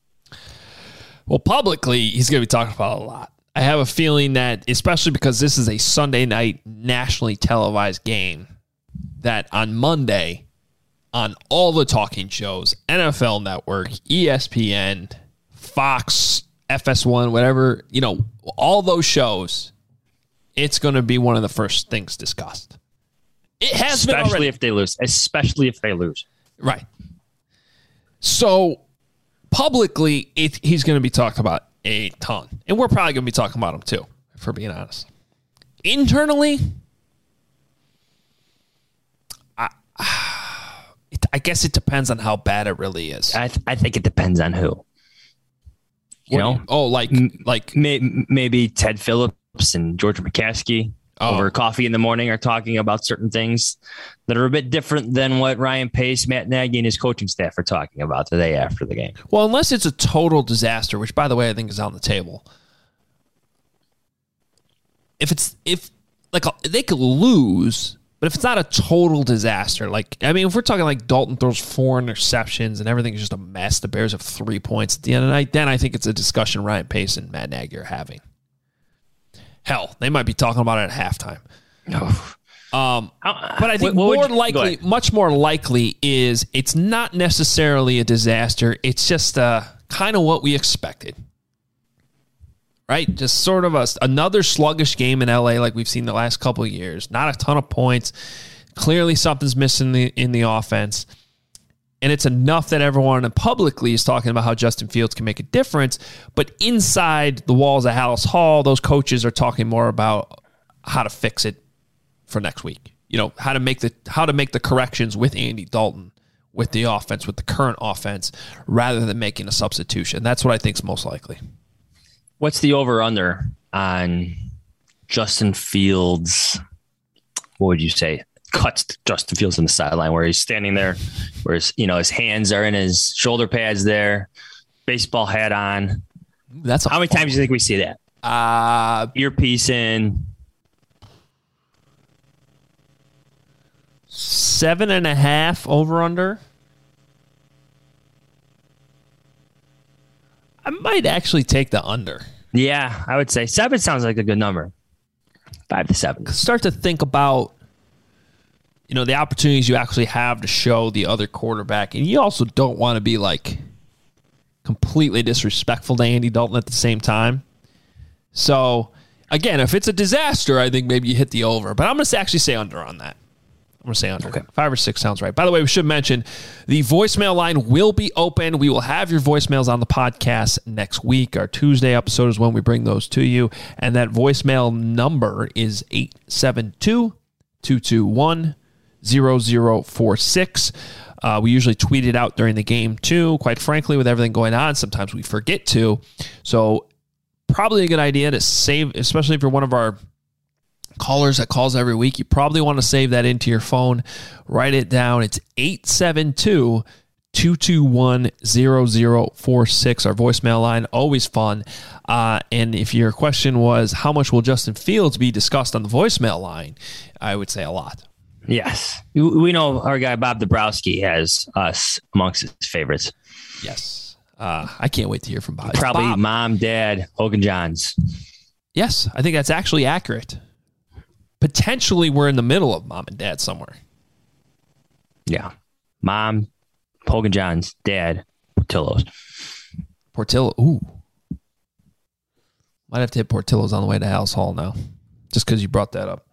Well, publicly, he's going to be talking about it a lot. I have a feeling that, especially because this is a Sunday night nationally televised game, that on Monday, on all the talking shows, N F L Network, E S P N, Fox, F S one, whatever, you know, all those shows, it's going to be one of the first things discussed. It has especially been already. if they lose, especially if they lose. Right. So publicly, it, he's going to be talked about a ton, and we're probably going to be talking about him too, if we're being honest. Internally, It, I guess it depends on how bad it really is. I, th- I think it depends on who. You what know, you, oh, like like May- maybe Ted Phillips and George McCaskey oh. over coffee in the morning are talking about certain things that are a bit different than what Ryan Pace, Matt Nagy, and his coaching staff are talking about the day after the game. Well, unless it's a total disaster, which, by the way, I think is on the table. If it's if like they could lose But if it's not a total disaster, like, I mean, if we're talking like Dalton throws four interceptions and everything's just a mess, the Bears have three points at the end of the night, then I think it's a discussion Ryan Pace and Matt Nagy are having. Hell, they might be talking about it at halftime. Oh. Um, but I think what, what more you, likely, much more likely is it's not necessarily a disaster. It's just uh, kind of what we expected. Right? Just sort of a, another sluggish game in L A like we've seen the last couple of years. Not a ton of points. Clearly something's missing in the, in the offense. And it's enough that everyone publicly is talking about how Justin Fields can make a difference. But inside the walls of Halas Hall, those coaches are talking more about how to fix it for next week. You know, how to make the how to make the corrections with Andy Dalton, with the offense, with the current offense, rather than making a substitution. That's what I think is most likely. What's the over-under on Justin Fields? What would you say? Cuts Justin Fields on the sideline where he's standing there, where his, you know, his hands are in his shoulder pads there, baseball hat on. That's how many times do you think we see that? Uh, Earpiece in. Seven and a half over-under. I might actually take the under. Yeah, I would say seven sounds like a good number. Five to seven. Start to think about, you know, the opportunities you actually have to show the other quarterback. And you also don't want to be like completely disrespectful to Andy Dalton at the same time. So, again, if it's a disaster, I think maybe you hit the over. But I'm going to actually say under on that. I'm going to say under. Okay. Five or six sounds right. By the way, we should mention the voicemail line will be open. We will have your voicemails on the podcast next week. Our Tuesday episode is when we bring those to you. And that voicemail number is eight seven two, two two one, zero zero four six. Uh, we usually tweet it out during the game, too. Quite frankly, with everything going on, sometimes we forget to. So probably a good idea to save, especially if you're one of our callers that calls every week. You probably want to save that into your phone. Write it down. It's eight seven two, two two one, zero zero four six. Our voicemail line, always fun. Uh, and if your question was, how much will Justin Fields be discussed on the voicemail line? I would say a lot. Yes. We know our guy Bob Dabrowski has us amongst his favorites. Yes. Uh, I can't wait to hear from Bob. Probably Bob. Mom, Dad, Hogan Johns. Yes, I think that's actually accurate. Potentially we're in the middle of Mom and Dad somewhere. Yeah. Mom, Hogan Johns, Dad, Portillo's. Portillo. Ooh. Might have to hit Portillo's on the way to Halas Hall now, just because you brought that up.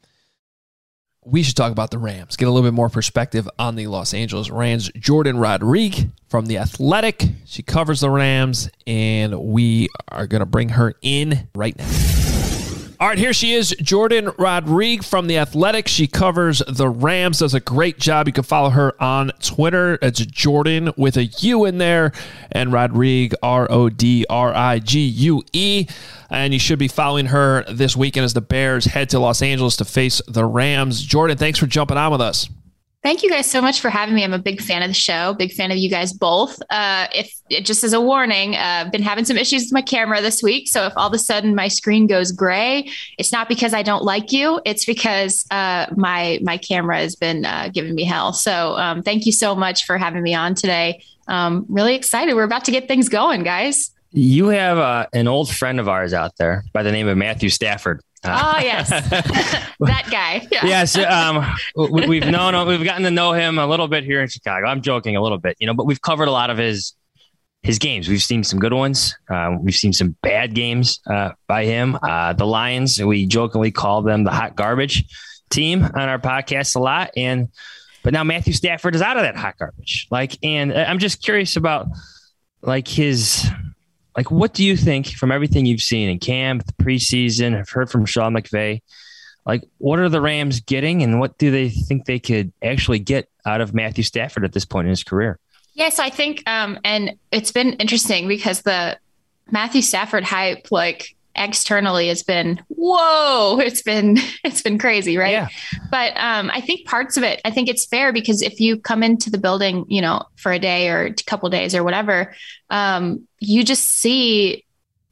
We should talk about the Rams, get a little bit more perspective on the Los Angeles Rams. Jordan Rodriguez from The Athletic. She covers the Rams, and we are going to bring her in right now. All right, here she is, Jordan Rodriguez from The Athletic. She covers the Rams, does a great job. You can follow her on Twitter. It's Jordan with a U in there, and Rodriguez, R O D R I G U E. And you should be following her this weekend as the Bears head to Los Angeles to face the Rams. Jordan, thanks for jumping on with us. Thank you guys so much for having me. I'm a big fan of the show, big fan of you guys both. Uh, if just as a warning, uh, I've been having some issues with my camera this week. So if all of a sudden my screen goes gray, it's not because I don't like you. It's because uh, my my camera has been uh, giving me hell. So um, thank you so much for having me on today. Um, really excited. We're about to get things going, guys. You have uh, an old friend of ours out there by the name of Matthew Stafford. Uh, oh, yes. That guy. Yeah. Yes. Um, we, we've known, we've gotten to know him a little bit here in Chicago. I'm joking a little bit, you know, but we've covered a lot of his, his games. We've seen some good ones. Uh, we've seen some bad games uh, by him. Uh, the Lions, we jokingly call them the hot garbage team on our podcast a lot. And, but now Matthew Stafford is out of that hot garbage. Like, and I'm just curious about like his, Like, what do you think from everything you've seen in camp, the preseason? I've heard from Sean McVay. Like, what are the Rams getting, and what do they think they could actually get out of Matthew Stafford at this point in his career? Yes, yeah, so I think, um, and it's been interesting because the Matthew Stafford hype, like externally, has been whoa. It's been it's been crazy, right? Yeah. But um, I think parts of it, I think it's fair because if you come into the building, you know, for a day or a couple of days or whatever, um, you just see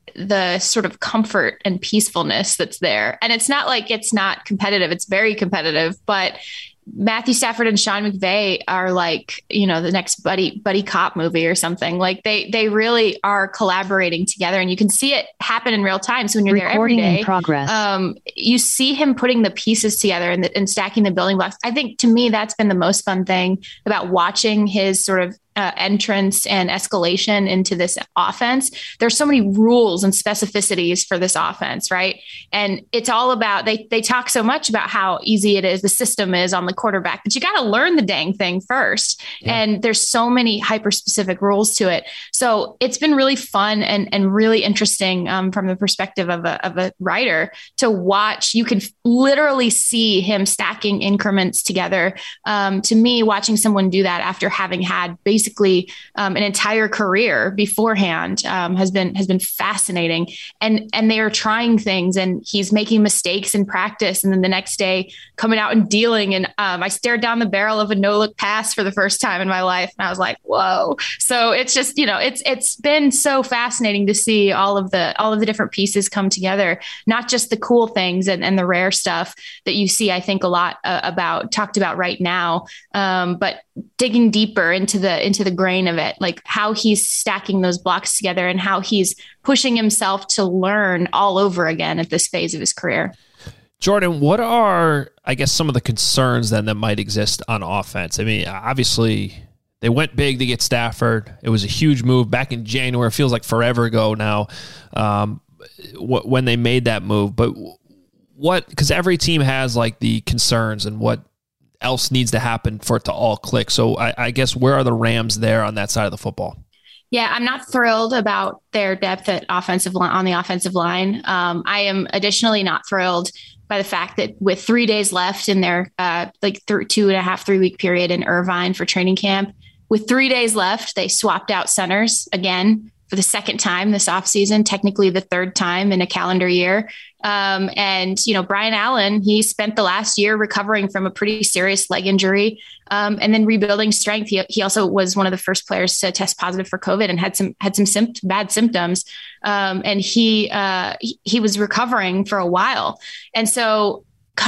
the sort of comfort and peacefulness that's there. And it's not like it's not competitive. It's very competitive, but Matthew Stafford and Sean McVay are like, you know, the next buddy, buddy cop movie or something. Like they, they really are collaborating together, and you can see it happen in real time. So when you're Recording there every day, in progress. Um, you see him putting the pieces together and, the, and stacking the building blocks. I think to me, that's been the most fun thing about watching his sort of Uh, entrance and escalation into this offense. There's so many rules and specificities for this offense, right? And it's all about, they they talk so much about how easy it is, the system is on the quarterback, but you got to learn the dang thing first. Yeah. And there's so many hyper specific rules to it. So it's been really fun and, and really interesting um, from the perspective of a, of a writer to watch. You can literally see him stacking increments together. Um, to me, watching someone do that after having had basically Basically, um, an entire career beforehand um, has been has been fascinating, and and they are trying things, and he's making mistakes in practice, and then the next day coming out and dealing. And um, I stared down the barrel of a no look pass for the first time in my life, and I was like, whoa! So it's just, you know, it's it's been so fascinating to see all of the all of the different pieces come together, not just the cool things and, and the rare stuff that you see. I think a lot uh, about talked about right now, um, but digging deeper into the into the grain of it, like how he's stacking those blocks together and how he's pushing himself to learn all over again at this phase of his career. Jordan, what are, I guess, some of the concerns then that might exist on offense? I mean, obviously they went big to get Stafford. It was a huge move back in January. It feels like forever ago now um, when they made that move. But what, because every team has like the concerns and what else needs to happen for it to all click. So I, I guess where are the Rams there on that side of the football? Yeah, I'm not thrilled about their depth at offensive line on the offensive line. Um, I am additionally not thrilled by the fact that with three days left in their uh, like th- two and a half, three week period in Irvine for training camp, with three days left, they swapped out centers again for the second time this offseason, technically the third time in a calendar year. Um, and, you know, Brian Allen, he spent the last year recovering from a pretty serious leg injury um, and then rebuilding strength. He, he also was one of the first players to test positive for COVID and had some had some sympt- bad symptoms. Um, and he, uh, he he was recovering for a while. And so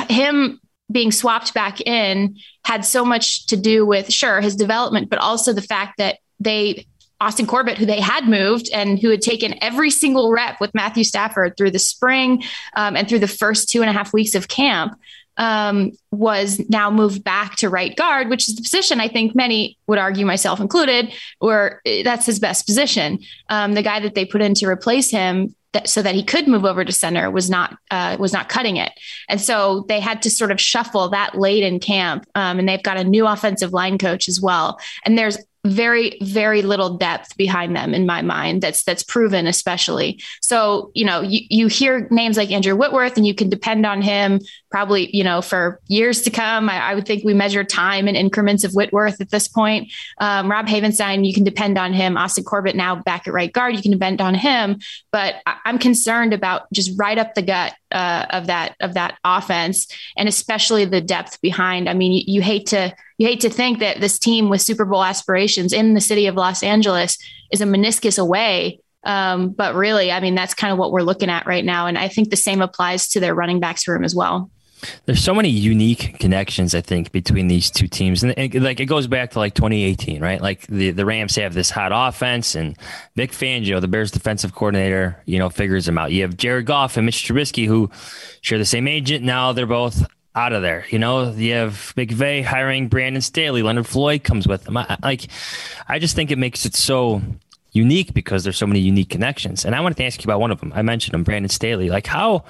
him being swapped back in had so much to do with, sure, his development, but also the fact that they Austin Corbett, who they had moved and who had taken every single rep with Matthew Stafford through the spring um, and through the first two and a half weeks of camp, um, was now moved back to right guard, which is the position I think many would argue, myself included, or that's his best position. Um, the guy that they put in to replace him that, so that he could move over to center was not uh, was not cutting it. And so they had to sort of shuffle that late in camp. Um, and they've got a new offensive line coach as well. And there's very, very little depth behind them in my mind. That's, that's proven, especially. So, you know, you, you hear names like Andrew Whitworth and you can depend on him probably, you know, for years to come. I, I would think we measure time in increments of Whitworth at this point. Um, Rob Havenstein, you can depend on him. Austin Corbett now back at right guard, you can depend on him, but I, I'm concerned about just right up the gut uh, of that, of that offense. And especially the depth behind. I mean, you, you hate to, You hate to think that this team with Super Bowl aspirations in the city of Los Angeles is a meniscus away. Um, but really, I mean, that's kind of what we're looking at right now. And I think the same applies to their running backs room as well. There's so many unique connections, I think, between these two teams. And it, like it goes back to like twenty eighteen, right? Like the, the Rams have this hot offense and Vic Fangio, the Bears defensive coordinator, you know, figures them out. You have Jared Goff and Mitch Trubisky, who share the same agent. Now they're both out of there. You know, you have McVay hiring Brandon Staley. Leonard Floyd comes with them. I, like, I just think it makes it so unique because there's so many unique connections. And I wanted to ask you about one of them. I mentioned him, Brandon Staley. Like, how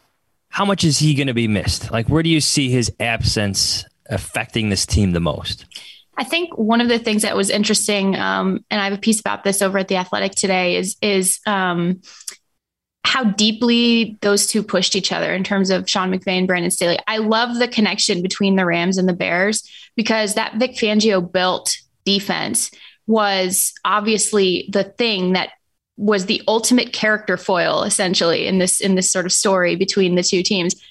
how much is he going to be missed? Like, where do you see his absence affecting this team the most? I think one of the things that was interesting, um, and I have a piece about this over at The Athletic today, is is um, how deeply those two pushed each other in terms of Sean McVay and Brandon Staley. I love the connection between the Rams and the Bears because that Vic Fangio built defense was obviously the thing that was the ultimate character foil, essentially, in this in this sort of story between the two teams.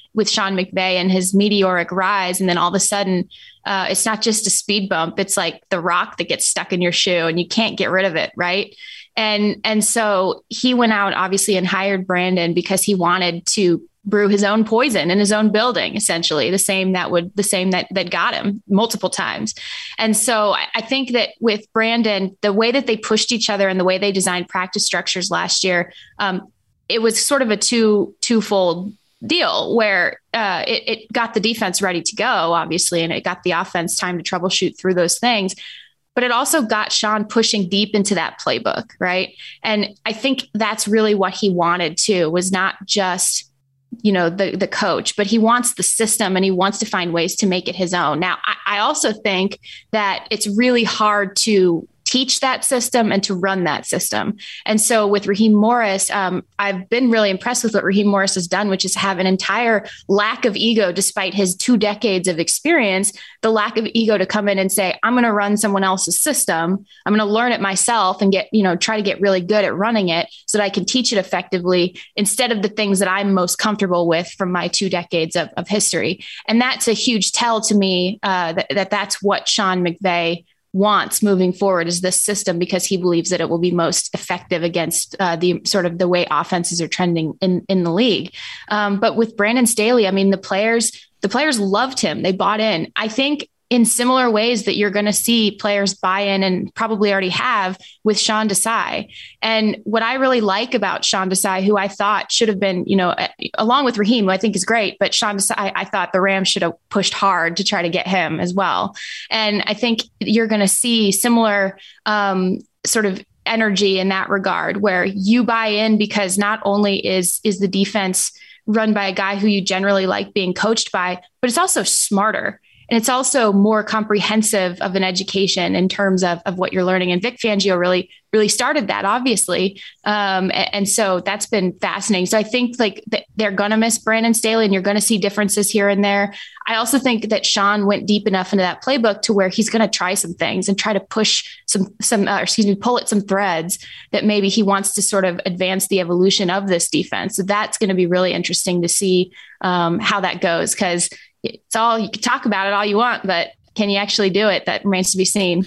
with Sean McVay and his meteoric rise. And then all of a sudden, uh, it's not just a speed bump. It's like the rock that gets stuck in your shoe and you can't get rid of it. Right. And, and so he went out obviously and hired Brandon because he wanted to brew his own poison in his own building, essentially the same that would the same that that got him multiple times. And so I, I think that with Brandon, the way that they pushed each other and the way they designed practice structures last year, um, it was sort of a two twofold deal where uh, it, it got the defense ready to go, obviously, and it got the offense time to troubleshoot through those things. But it also got Sean pushing deep into that playbook, right? And I think that's really what he wanted too, was not just you know, the, the coach, but he wants the system and he wants to find ways to make it his own. Now, I, I also think that it's really hard to teach that system and to run that system. And so with Raheem Morris, um, I've been really impressed with what Raheem Morris has done, which is have an entire lack of ego, despite his two decades of experience, the lack of ego to come in and say, I'm going to run someone else's system. I'm going to learn it myself and get, you know, try to get really good at running it so that I can teach it effectively instead of the things that I'm most comfortable with from my two decades of, of history. And that's a huge tell to me uh, that, that that's what Sean McVay wants moving forward is this system, because he believes that it will be most effective against uh, the sort of the way offenses are trending in, in the league. Um, but with Brandon Staley, I mean, the players, the players loved him. They bought in. I think in similar ways that you're going to see players buy in and probably already have with Sean Desai. And what I really like about Sean Desai, who I thought should have been, you know, along with Raheem, who I think is great, but Sean Desai, I, I thought the Rams should have pushed hard to try to get him as well. And I think you're going to see similar um, sort of energy in that regard, where you buy in because not only is, is the defense run by a guy who you generally like being coached by, but it's also smarter. And it's also more comprehensive of an education in terms of, of what you're learning. And Vic Fangio really, really started that, obviously. Um, and, and so that's been fascinating. So I think like th- they're going to miss Brandon Staley and you're going to see differences here and there. I also think that Sean went deep enough into that playbook to where he's going to try some things and try to push some, some, uh, excuse me, pull at some threads that maybe he wants to sort of advance the evolution of this defense. So that's going to be really interesting to see um, how that goes. Cause it's all, you can talk about it all you want, but can you actually do it? That remains to be seen.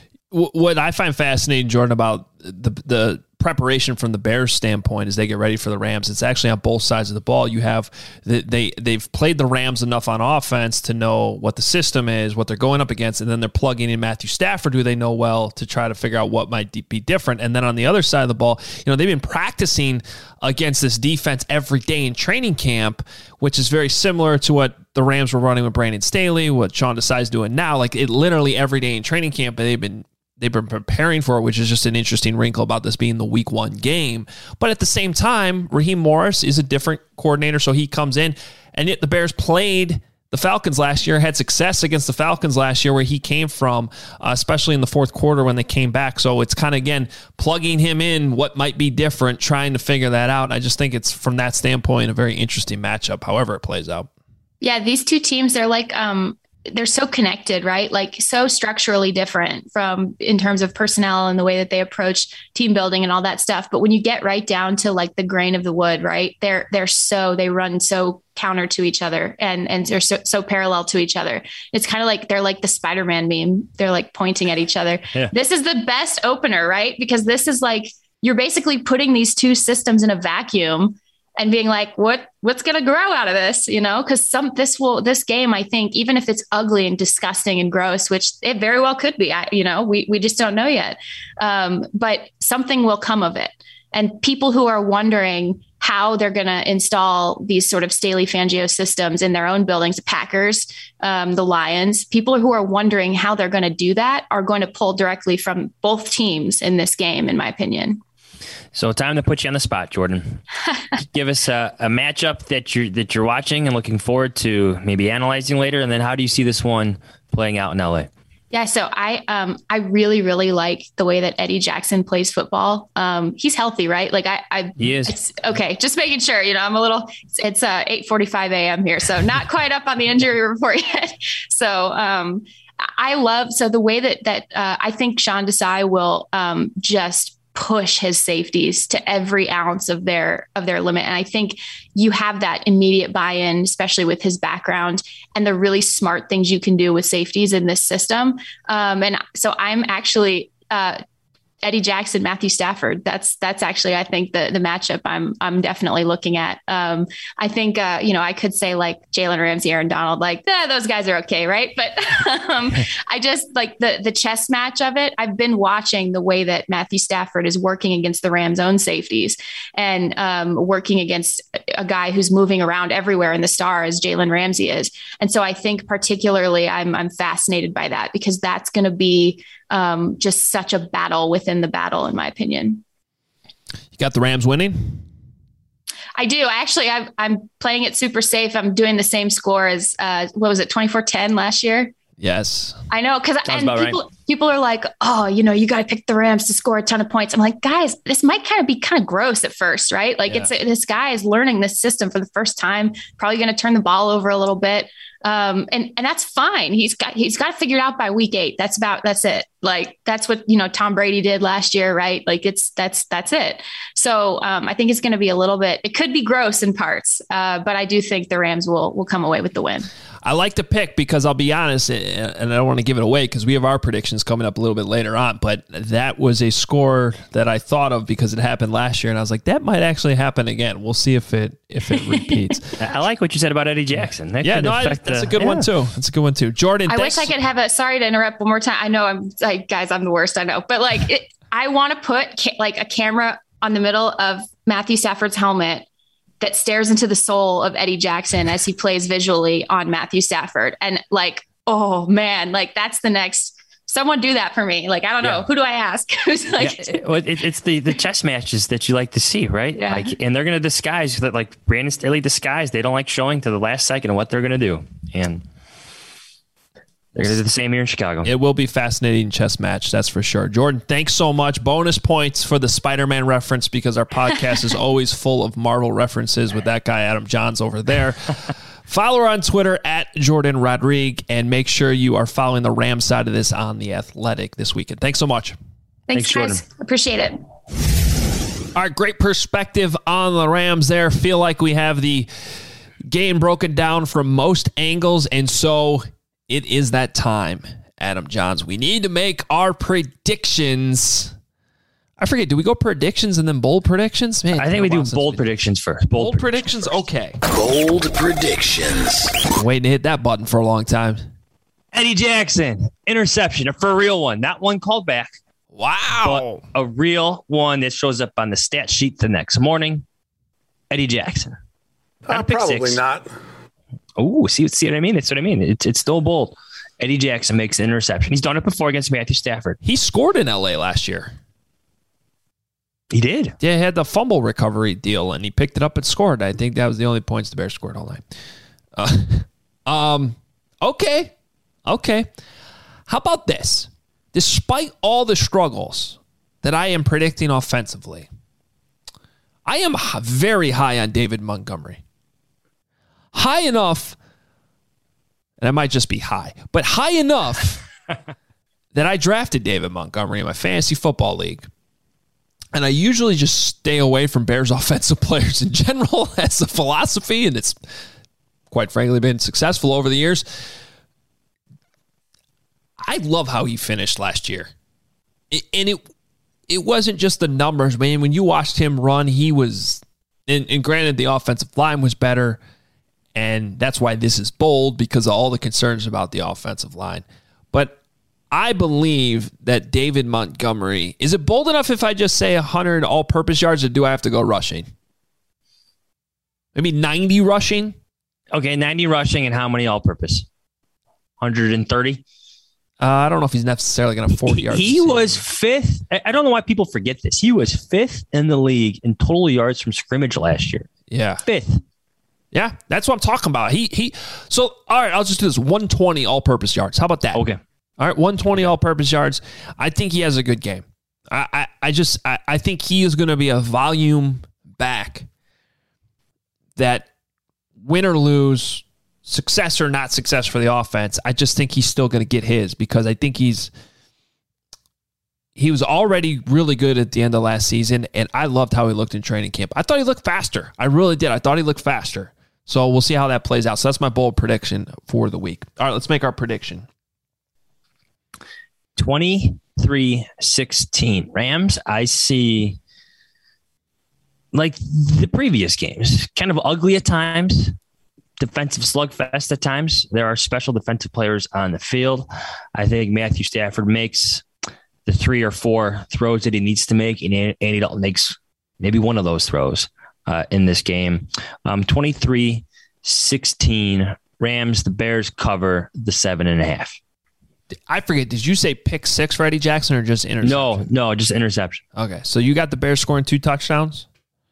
What I find fascinating, Jordan, about the the preparation from the Bears standpoint as they get ready for the Rams, it's actually on both sides of the ball. You have the, they they've played the Rams enough on offense to know what the system is, what they're going up against, and then they're plugging in Matthew Stafford, who they know well, to try to figure out what might be different. And then on the other side of the ball, you know, they've been practicing against this defense every day in training camp, which is very similar to what the Rams were running with Brandon Staley, what Sean Desai is doing now. Like, it literally every day in training camp, they've been They've been preparing for it, which is just an interesting wrinkle about this being the week one game. But at the same time, Raheem Morris is a different coordinator, so he comes in. And yet the Bears played the Falcons last year, had success against the Falcons last year where he came from, uh, especially in the fourth quarter when they came back. So it's kind of, again, plugging him in what might be different, trying to figure that out. I just think it's, from that standpoint, a very interesting matchup, however it plays out. Yeah, these two teams, they're like... um they're so connected, right? Like so structurally different from in terms of personnel and the way that they approach team building and all that stuff. But when you get right down to like the grain of the wood, right, they're, they're so, they run so counter to each other and, and they're so, so parallel to each other. It's kind of like, they're like the Spider-Man meme. They're like pointing at each other. Yeah. This is the best opener, right? Because this is like, you're basically putting these two systems in a vacuum and being like, what, what's going to grow out of this? You know, cause some, this will, this game, I think, even if it's ugly and disgusting and gross, which it very well could be, I, you know, we, we just don't know yet. Um, but something will come of it. And people who are wondering how they're going to install these sort of Staley Fangio systems in their own buildings, the Packers, um, the Lions, people who are wondering how they're going to do that are going to pull directly from both teams in this game, in my opinion. So time to put you on the spot, Jordan. Give us a, a matchup that you're that you're watching and looking forward to maybe analyzing later, and then how do you see this one playing out in L A? Yeah, so I um I really really like the way that Eddie Jackson plays football. Um, he's healthy, right? Like I, I he is. It's, okay, just making sure. You know, I'm a little. It's, it's uh eight forty-five a.m. here, so not quite up on the injury report yet. So um, I love so the way that that uh, I think Sean Desai will um just push his safeties to every ounce of their of their limit. And I think you have that immediate buy-in, especially with his background and the really smart things you can do with safeties in this system. Um, and so I'm actually uh, Eddie Jackson, Matthew Stafford. That's that's actually, I think, the the matchup I'm I'm definitely looking at. Um, I think uh, you know I could say like Jalen Ramsey, Aaron Donald, like eh, those guys are okay, right? But um, I just like the the chess match of it. I've been watching the way that Matthew Stafford is working against the Rams' own safeties and um, working against a guy who's moving around everywhere in the star as Jalen Ramsey is. And so I think particularly I'm I'm fascinated by that because that's going to be Um, just such a battle within the battle, in my opinion. You got the Rams winning? I do. Actually, I've, I'm playing it super safe. I'm doing the same score as, uh, what was it, twenty-four ten last year? Yes. I know. Because people, right. people are like, oh, you know, you got to pick the Rams to score a ton of points. I'm like, guys, this might kind of be kind of gross at first, right? Like yeah. it's this guy is learning this system for the first time, probably going to turn the ball over a little bit. Um, and, and that's fine. He's got, he's got to figure it out by week eight. That's about, that's it. Like, that's what, you know, Tom Brady did last year, right? Like it's, that's, that's it. So, um, I think it's going to be a little bit, it could be gross in parts. Uh, but I do think the Rams will, will come away with the win. I like to pick because I'll be honest, and I don't want to give it away because we have our predictions coming up a little bit later on, but that was a score that I thought of because it happened last year, and I was like, that might actually happen again. We'll see if it if it repeats. I like what you said about Eddie Jackson. That yeah, no, I, that's the, a good yeah. one too. That's a good one too. Jordan, I thanks. wish I could have a, sorry to interrupt one more time. I know I'm like, guys, I'm the worst, I know, but like, it, I want to put ca- like a camera on the middle of Matthew Stafford's helmet that stares into the soul of Eddie Jackson as he plays visually on Matthew Stafford. And like, oh man, like that's the next, someone do that for me. Like, I don't know. Yeah. Who do I ask? Who's like, yeah, it, it, it's the, the chess matches that you like to see, right? Yeah. Like, and they're going to disguise that, like Brandon Staley disguised. They don't like showing to the last second what they're going to do. And they're going to do the same here in Chicago. It will be fascinating chess match, that's for sure. Jordan, thanks so much. Bonus points for the Spider-Man reference because our podcast is always full of Marvel references with that guy, Adam Johns, over there. Follow her on Twitter at Jordan Rodrigue, and make sure you are following the Rams side of this on The Athletic this weekend. Thanks so much. Thanks, Thanks guys. Jordan. Appreciate it. All right, great perspective on the Rams there. Feel like we have the game broken down from most angles, and so it is that time, Adam Johns. We need to make our predictions. I forget, do we go predictions and then bold predictions? Man, I think we do bold predictions first. Bold, bold predictions? predictions? Okay. Bold predictions. Been waiting to hit that button for a long time. Eddie Jackson, interception, a for real one. Not one called back. Wow. But a real one that shows up on the stat sheet the next morning. Eddie Jackson. Not uh, probably six. not. Oh, see, see what I mean? That's what I mean. It's it's still bold. Eddie Jackson makes an interception. He's done it before against Matthew Stafford. He scored in L A last year. He did. Yeah, he had the fumble recovery deal, and he picked it up and scored. I think that was the only points the Bears scored all night. Uh, um, okay. Okay. How about this? Despite all the struggles that I am predicting offensively, I am very high on David Montgomery. High enough, and I might just be high, but high enough that I drafted David Montgomery in my fantasy football league. And I usually just stay away from Bears offensive players in general as a philosophy, and it's quite frankly been successful over the years. I love how he finished last year. And it it wasn't just the numbers, man. When you watched him run, he was, and, and granted the offensive line was better, and that's why this is bold, because of all the concerns about the offensive line. But I believe that David Montgomery, is it bold enough if I just say one hundred all-purpose yards, or do I have to go rushing? Maybe ninety rushing? Okay, ninety rushing, and how many all-purpose? one hundred thirty? Uh, I don't know if he's necessarily going to forty yards. He was fifth. I don't know why people forget this. He was fifth in the league in total yards from scrimmage last year. Yeah. Fifth. Yeah, that's what I'm talking about. He he. So, all right, I'll just do this. one hundred twenty all-purpose yards. How about that? Okay. All right, one hundred twenty all-purpose yards. I think he has a good game. I I, I just I, I think he is going to be a volume back that win or lose, success or not success for the offense, I just think he's still going to get his, because I think he's he was already really good at the end of last season, and I loved how he looked in training camp. I thought he looked faster. I really did. I thought he looked faster. So we'll see how that plays out. So that's my bold prediction for the week. All right, let's make our prediction. twenty-three sixteen Rams. I see, like the previous games, kind of ugly at times. Defensive slugfest at times. There are special defensive players on the field. I think Matthew Stafford makes the three or four throws that he needs to make, and Andy Dalton makes maybe one of those throws uh, in this game. Um, twenty-three sixteen Rams. The Bears cover the seven and a half. I forget. Did you say pick six for Eddie Jackson or just interception? No, no, just interception. Okay, so you got the Bears scoring two touchdowns?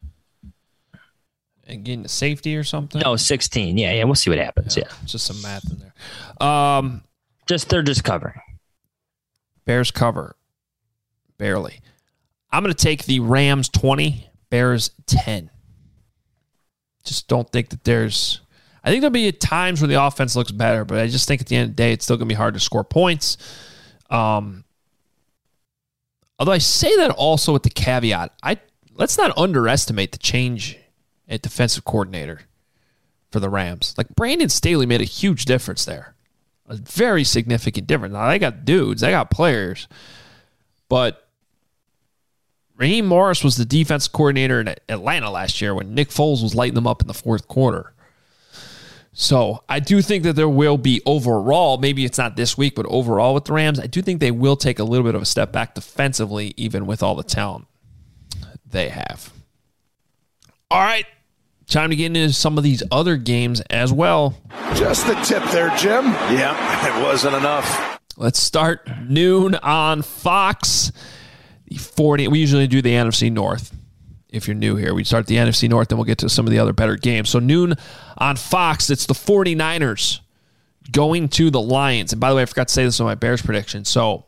And getting the safety or something? No, sixteen. Yeah, yeah. We'll see what happens. Yeah, yeah. Just some math in there. Um, just they're just covering. Bears cover. Barely. I'm going to take the Rams twenty, Bears ten. Just don't think that there's... I think there'll be times where the offense looks better, but I just think at the end of the day, it's still going to be hard to score points. Um, although I say that also with the caveat, I let's not underestimate the change at defensive coordinator for the Rams. Like, Brandon Staley made a huge difference there. A very significant difference. Now, they got dudes. They got players. But Raheem Morris was the defensive coordinator in Atlanta last year when Nick Foles was lighting them up in the fourth quarter. So I do think that there will be overall, maybe it's not this week, but overall with the Rams, I do think they will take a little bit of a step back defensively, even with all the talent they have. All right. Time to get into some of these other games as well. Just the tip there, Jim. Yeah, it wasn't enough. Let's start noon on Fox. The forty. We usually do the N F C North. If you're new here, we start the N F C North, then we'll get to some of the other better games. So noon on Fox, it's the 49ers going to the Lions. And by the way, I forgot to say this on my Bears prediction. So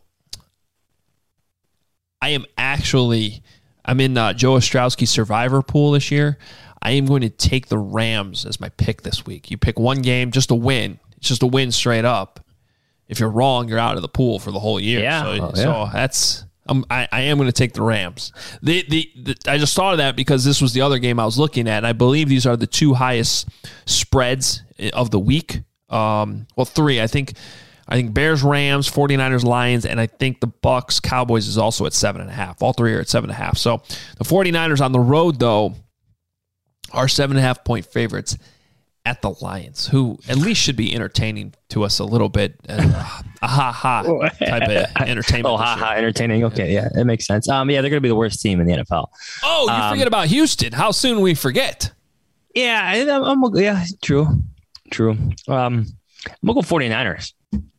I am actually, I'm in uh, Joe Ostrowski's Survivor pool this year. I am going to take the Rams as my pick this week. You pick one game, just a win. It's just a win straight up. If you're wrong, you're out of the pool for the whole year. Yeah. So, oh, yeah. so that's... Um, I, I am going to take the Rams. The, the the I just thought of that because this was the other game I was looking at, and I believe these are the two highest spreads of the week. Um, well, three. I think I think Bears, Rams, 49ers, Lions, and I think the Bucks, Cowboys is also at seven and a half. All three are at seven and a half. So the 49ers on the road, though, are seven and a half point favorites at the Lions, who at least should be entertaining to us a little bit. Uh, a ha-ha type of entertainment. Oh, ha-ha, entertaining. Okay, yeah, that makes sense. Um, yeah, they're going to be the worst team in the N F L. Oh, you um, forget about Houston. How soon we forget? Yeah, I'm, I'm, yeah, true, true. Um, I'm going to go 49ers.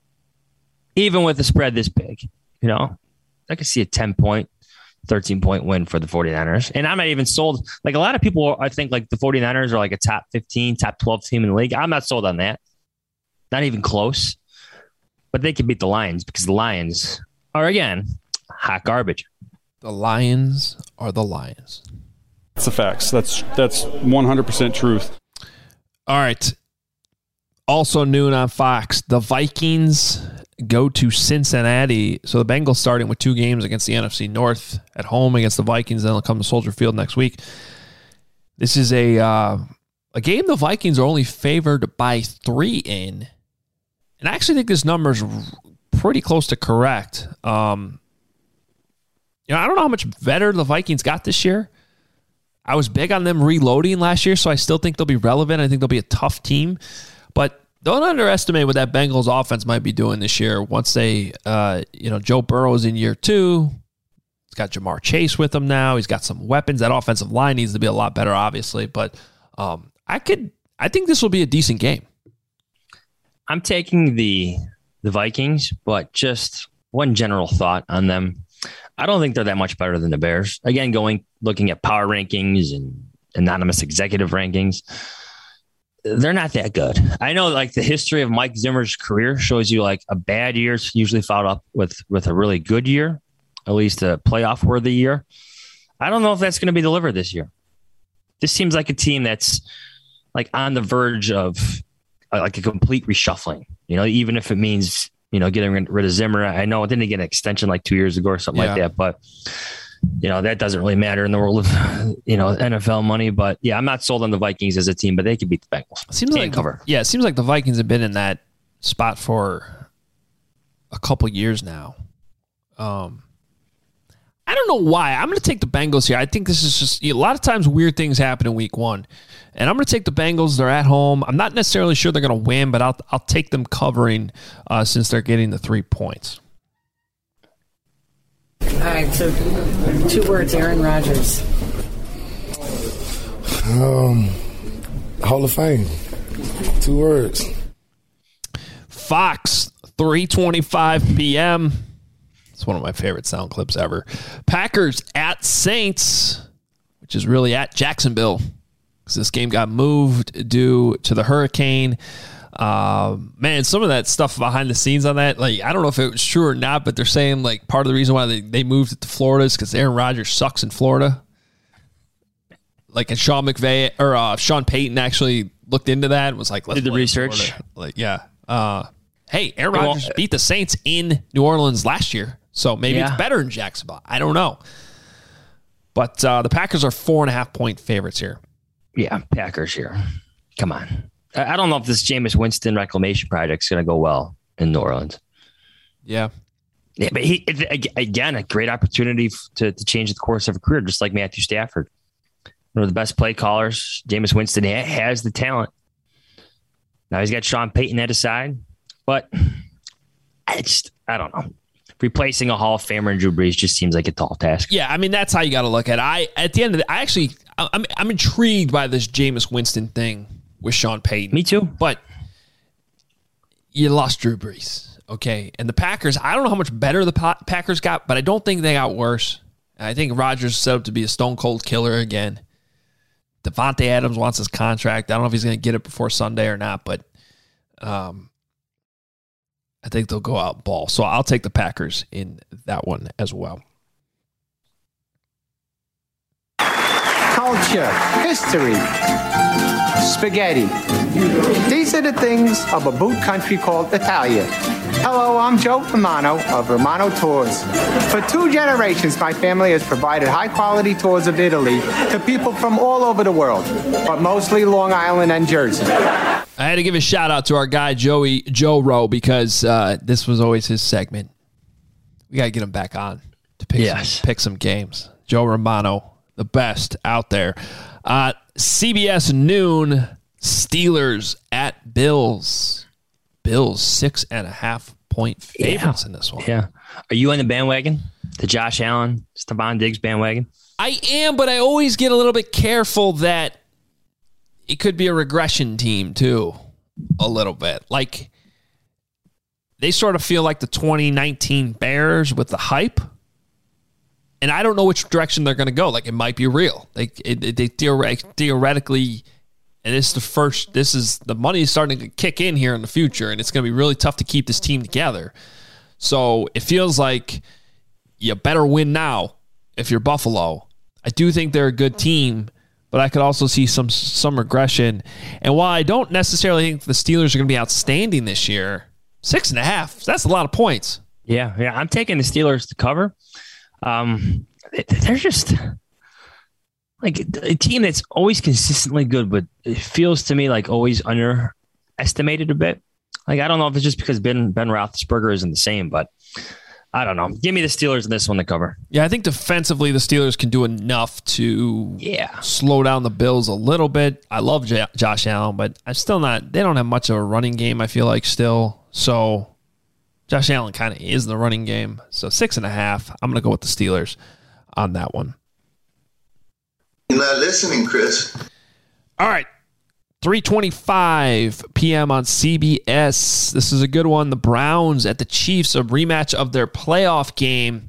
Even with the spread this big, you know, I can see a ten-point, thirteen-point win for the 49ers. And I'm not even sold. Like, a lot of people, I think, like, the 49ers are like a top fifteen, top twelve team in the league. I'm not sold on that. Not even close. But they can beat the Lions because the Lions are, again, hot garbage. The Lions are the Lions. That's the facts. That's that's one hundred percent truth. All right. Also noon on Fox, the Vikings go to Cincinnati. So the Bengals starting with two games against the N F C North at home against the Vikings. Then they'll come to Soldier Field next week. This is a uh, a game the Vikings are only favored by three in. And I actually think this number is pretty close to correct. Um, you know, I don't know how much better the Vikings got this year. I was big on them reloading last year, so I still think they'll be relevant. I think they'll be a tough team. But don't underestimate what that Bengals offense might be doing this year once they, uh, you know, Joe Burrow's in year two. He's got Jamar Chase with him now. He's got some weapons. That offensive line needs to be a lot better, obviously. But um, I could, I think this will be a decent game. I'm taking the the Vikings, but just one general thought on them. I don't think they're that much better than the Bears. Again, going looking at power rankings and anonymous executive rankings, they're not that good. I know, like, the history of Mike Zimmer's career shows you, like, a bad year is usually followed up with with a really good year, at least a playoff worthy year. I don't know if that's going to be delivered this year. This seems like a team that's like on the verge of like a complete reshuffling, you know, even if it means you know, getting rid of Zimmer. I know it didn't get an extension like two years ago or something Yeah. like that, but you know, that doesn't really matter in the world of, you know, N F L money. But yeah, I'm not sold on the Vikings as a team, but they could beat the Bengals. Seems Can't like cover. Yeah, it seems like the Vikings have been in that spot for a couple years now. Um, I don't know why. I'm going to take the Bengals here. I think this is just a lot of times weird things happen in week one. And I'm going to take the Bengals. They're at home. I'm not necessarily sure they're going to win, but I'll I'll take them covering uh, since they're getting the three points. All right, so two words, Aaron Rodgers. Um, Hall of Fame. Two words. Fox, three twenty-five p.m. It's one of my favorite sound clips ever. Packers at Saints, which is really at Jacksonville, because this game got moved due to the hurricane. Uh, man, some of that stuff behind the scenes on that, like, I don't know if it was true or not, but they're saying, like, part of the reason why they, they moved it to Florida is because Aaron Rodgers sucks in Florida. Like, and Sean McVay, or uh, Sean Payton actually looked into that and was like, let's Did the play in research. Florida. Like, yeah. Uh, hey, Aaron Well, Rodgers beat the Saints in New Orleans last year, so maybe Yeah. it's better in Jacksonville. I don't know. But uh, the Packers are four and a half point favorites here. Yeah, Packers here. Come on. I I don't know if this Jameis Winston reclamation project is going to go well in New Orleans. Yeah. Yeah, but he it, again, a great opportunity f- to, to change the course of a career, just like Matthew Stafford. One of the best play callers. Jameis Winston ha- has the talent. Now he's got Sean Payton at his side, but I just, I don't know. Replacing a Hall of Famer in Drew Brees just seems like a tall task. Yeah, I mean, that's how you got to look at it. I, at the end of the I actually, I'm, I'm intrigued by this Jameis Winston thing with Sean Payton. Me too. But you lost Drew Brees, okay? And the Packers, I don't know how much better the pa- Packers got, but I don't think they got worse. I think Rodgers is set up to be a stone-cold killer again. Devontae Adams wants his contract. I don't know if he's going to get it before Sunday or not, but um, I think they'll go out ball. So I'll take the Packers in that one as well. Culture, history, spaghetti. These are the things of a boot country called Italia. Hello, I'm Joe Romano of Romano Tours. For two generations, my family has provided high-quality tours of Italy to people from all over the world, but mostly Long Island and Jersey. I had to give a shout out to our guy Joey Joe Rowe because uh, this was always his segment. We got to get him back on to pick Yes. some, pick some games. Joe Romano, the best out there. Uh, C B S noon, Steelers at Bills. Bills six and a half point favorites Yeah. in this one. Yeah. Are you on the bandwagon? The Josh Allen, Stephon Diggs bandwagon? I am, but I always get a little bit careful that it could be a regression team too, a little bit. Like, they sort of feel like the twenty nineteen Bears with the hype, and I don't know which direction they're going to go. Like, it might be real. Like, it, it, they theoretic, theoretically, and this is the first. This is the money is starting to kick in here in the future, and it's going to be really tough to keep this team together. So it feels like you better win now if you're Buffalo. I do think they're a good team, but I could also see some some regression. And while I don't necessarily think the Steelers are going to be outstanding this year, six and a half, that's a lot of points. Yeah, yeah. I'm taking the Steelers to cover. Um, they're just like a team that's always consistently good, but it feels to me like always underestimated a bit. Like, I don't know if it's just because Ben Ben Roethlisberger isn't the same, but I don't know. Give me the Steelers in this one to cover. Yeah, I think defensively the Steelers can do enough to yeah. slow down the Bills a little bit. I love J- Josh Allen, but I'm still not. They don't have much of a running game, I feel like, still. So Josh Allen kind of is the running game. So six and a half. I'm going to go with the Steelers on that one. You're not listening, Chris. All right. three twenty-five p.m. on C B S. This is a good one. The Browns at the Chiefs, a rematch of their playoff game.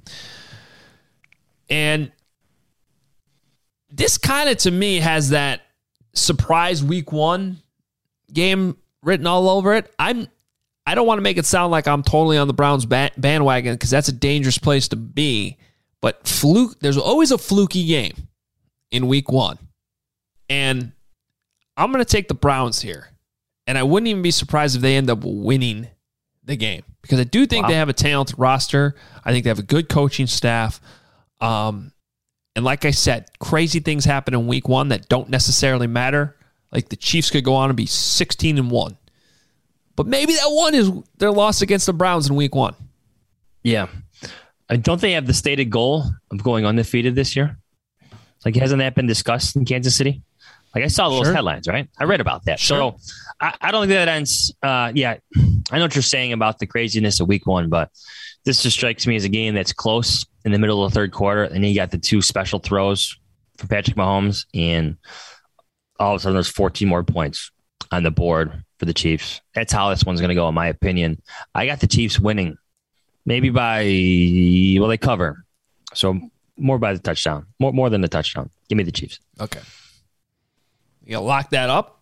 And this kind of, to me, has that surprise week one game written all over it. I'm, I don't want to make it sound like I'm totally on the Browns bandwagon because that's a dangerous place to be. But fluke, there's always a fluky game in week one. And I'm going to take the Browns here. And I wouldn't even be surprised if they end up winning the game because I do think Wow. they have a talented roster. I think they have a good coaching staff. Um, and like I said, crazy things happen in week one that don't necessarily matter. Like the Chiefs could go on and be sixteen and one. But maybe that one is their loss against the Browns in week one. Yeah. Uh, Don't they have the stated goal of going undefeated this year? Like, hasn't that been discussed in Kansas City? Like, I saw those Sure. headlines, right? I read about that. Sure. So I, I don't think that ends. Uh, yeah, I know what you're saying about the craziness of week one, but this just strikes me as a game that's close in the middle of the third quarter. And then you got the two special throws for Patrick Mahomes, and all of a sudden there's fourteen more points on the board for the Chiefs. That's how this one's going to go, in my opinion. I got the Chiefs winning. Maybe by, well, they cover. So more by the touchdown. More more than the touchdown. Give me the Chiefs. Okay. You got to lock that up?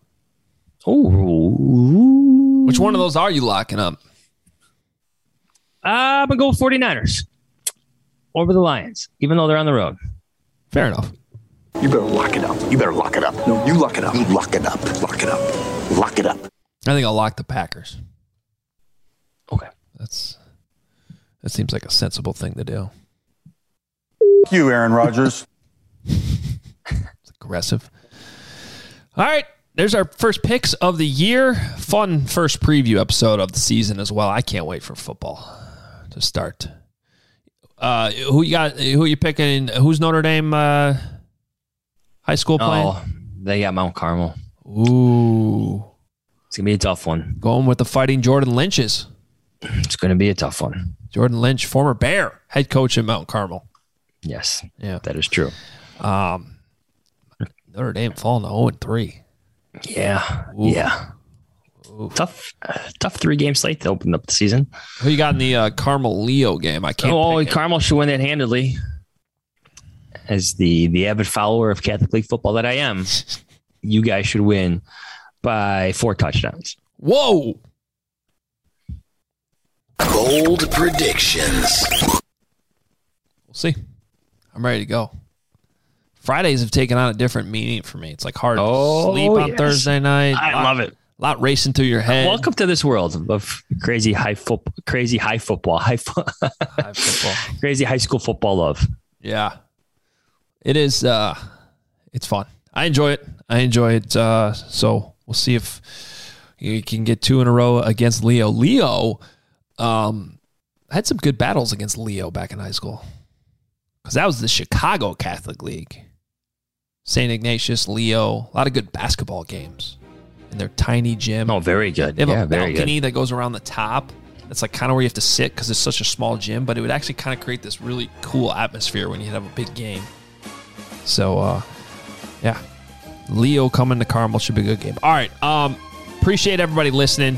Ooh. Which one of those are you locking up? I'm going to go 49ers over the Lions, even though they're on the road. Fair enough. You better lock it up. You better lock it up. No, you lock it up. You lock it up. Lock it up. Lock it up. I think I'll lock the Packers. Okay. That's that seems like a sensible thing to do. You, Aaron Rodgers. It's aggressive. All right. There's our first picks of the year. Fun first preview episode of the season as well. I can't wait for football to start. Uh, who you got? Who you picking? Who's Notre Dame uh, high school playing? Oh, they got Mount Carmel. Ooh. It's going to be a tough one. Going with the Fighting Jordan Lynches. It's going to be a tough one. Jordan Lynch, former Bear, head coach at Mount Carmel. Yes. Yeah. That is true. Um, Notre Dame falling to oh and three. Yeah. Ooh. Yeah. Ooh. Tough uh, tough three-game slate to open up the season. Who you got in the uh, Carmel-Leo game? I can't Oh, pick it. Carmel should win that handedly. As the, the avid follower of Catholic League football that I am, you guys should win by four touchdowns. Whoa. Bold predictions. We'll see. I'm ready to go. Fridays have taken on a different meaning for me. It's like hard Oh, to sleep on yes. Thursday night. I lot, love it. A lot racing through your head. Welcome to this world of crazy high football, crazy high football, high, fo- High football. crazy high school football love. Yeah. It is. Uh, it's fun. I enjoy it. I enjoy it. Uh, so we'll see if you can get two in a row against Leo. Leo um, had some good battles against Leo back in high school because that was the Chicago Catholic League. Saint Ignatius, Leo, a lot of good basketball games in their tiny gym. Oh, very good. They have yeah, a very balcony good. that goes around the top. It's like kind of where you have to sit because it's such a small gym, but it would actually kind of create this really cool atmosphere when you have a big game. So, uh, yeah, Leo coming to Carmel should be a good game. All right, um, appreciate everybody listening.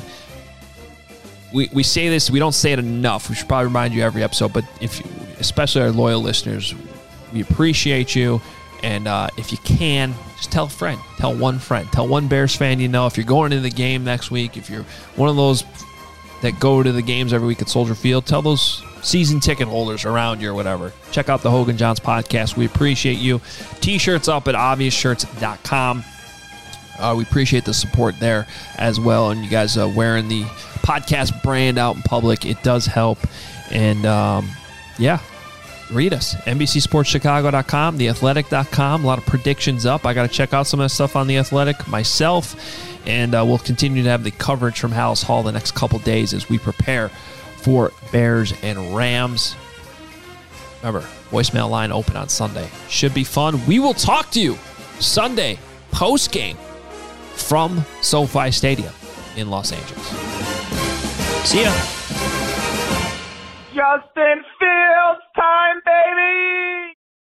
We we say this, we don't say it enough. We should probably remind you every episode, but if you, especially our loyal listeners, we appreciate you. And uh, if you can, just tell a friend, tell one friend, tell one Bears fan you know. If you're going to the game next week, if you're one of those that go to the games every week at Soldier Field, tell those season ticket holders around you or whatever. Check out the Hogan Johns podcast. We appreciate you. T-shirts up at obvious shirts dot com. Uh, we appreciate the support there as well. And you guys uh, wearing the podcast brand out in public, it does help. And um, yeah, read us. N B C Sports Chicago dot com, the athletic dot com. A lot of predictions up. I got to check out some of that stuff on The Athletic myself. And uh, we'll continue to have the coverage from Hallis Hall the next couple days as we prepare for Bears and Rams. Remember, voicemail line open on Sunday. Should be fun. We will talk to you Sunday post-game from SoFi Stadium in Los Angeles. See ya. Justin Fields time, baby!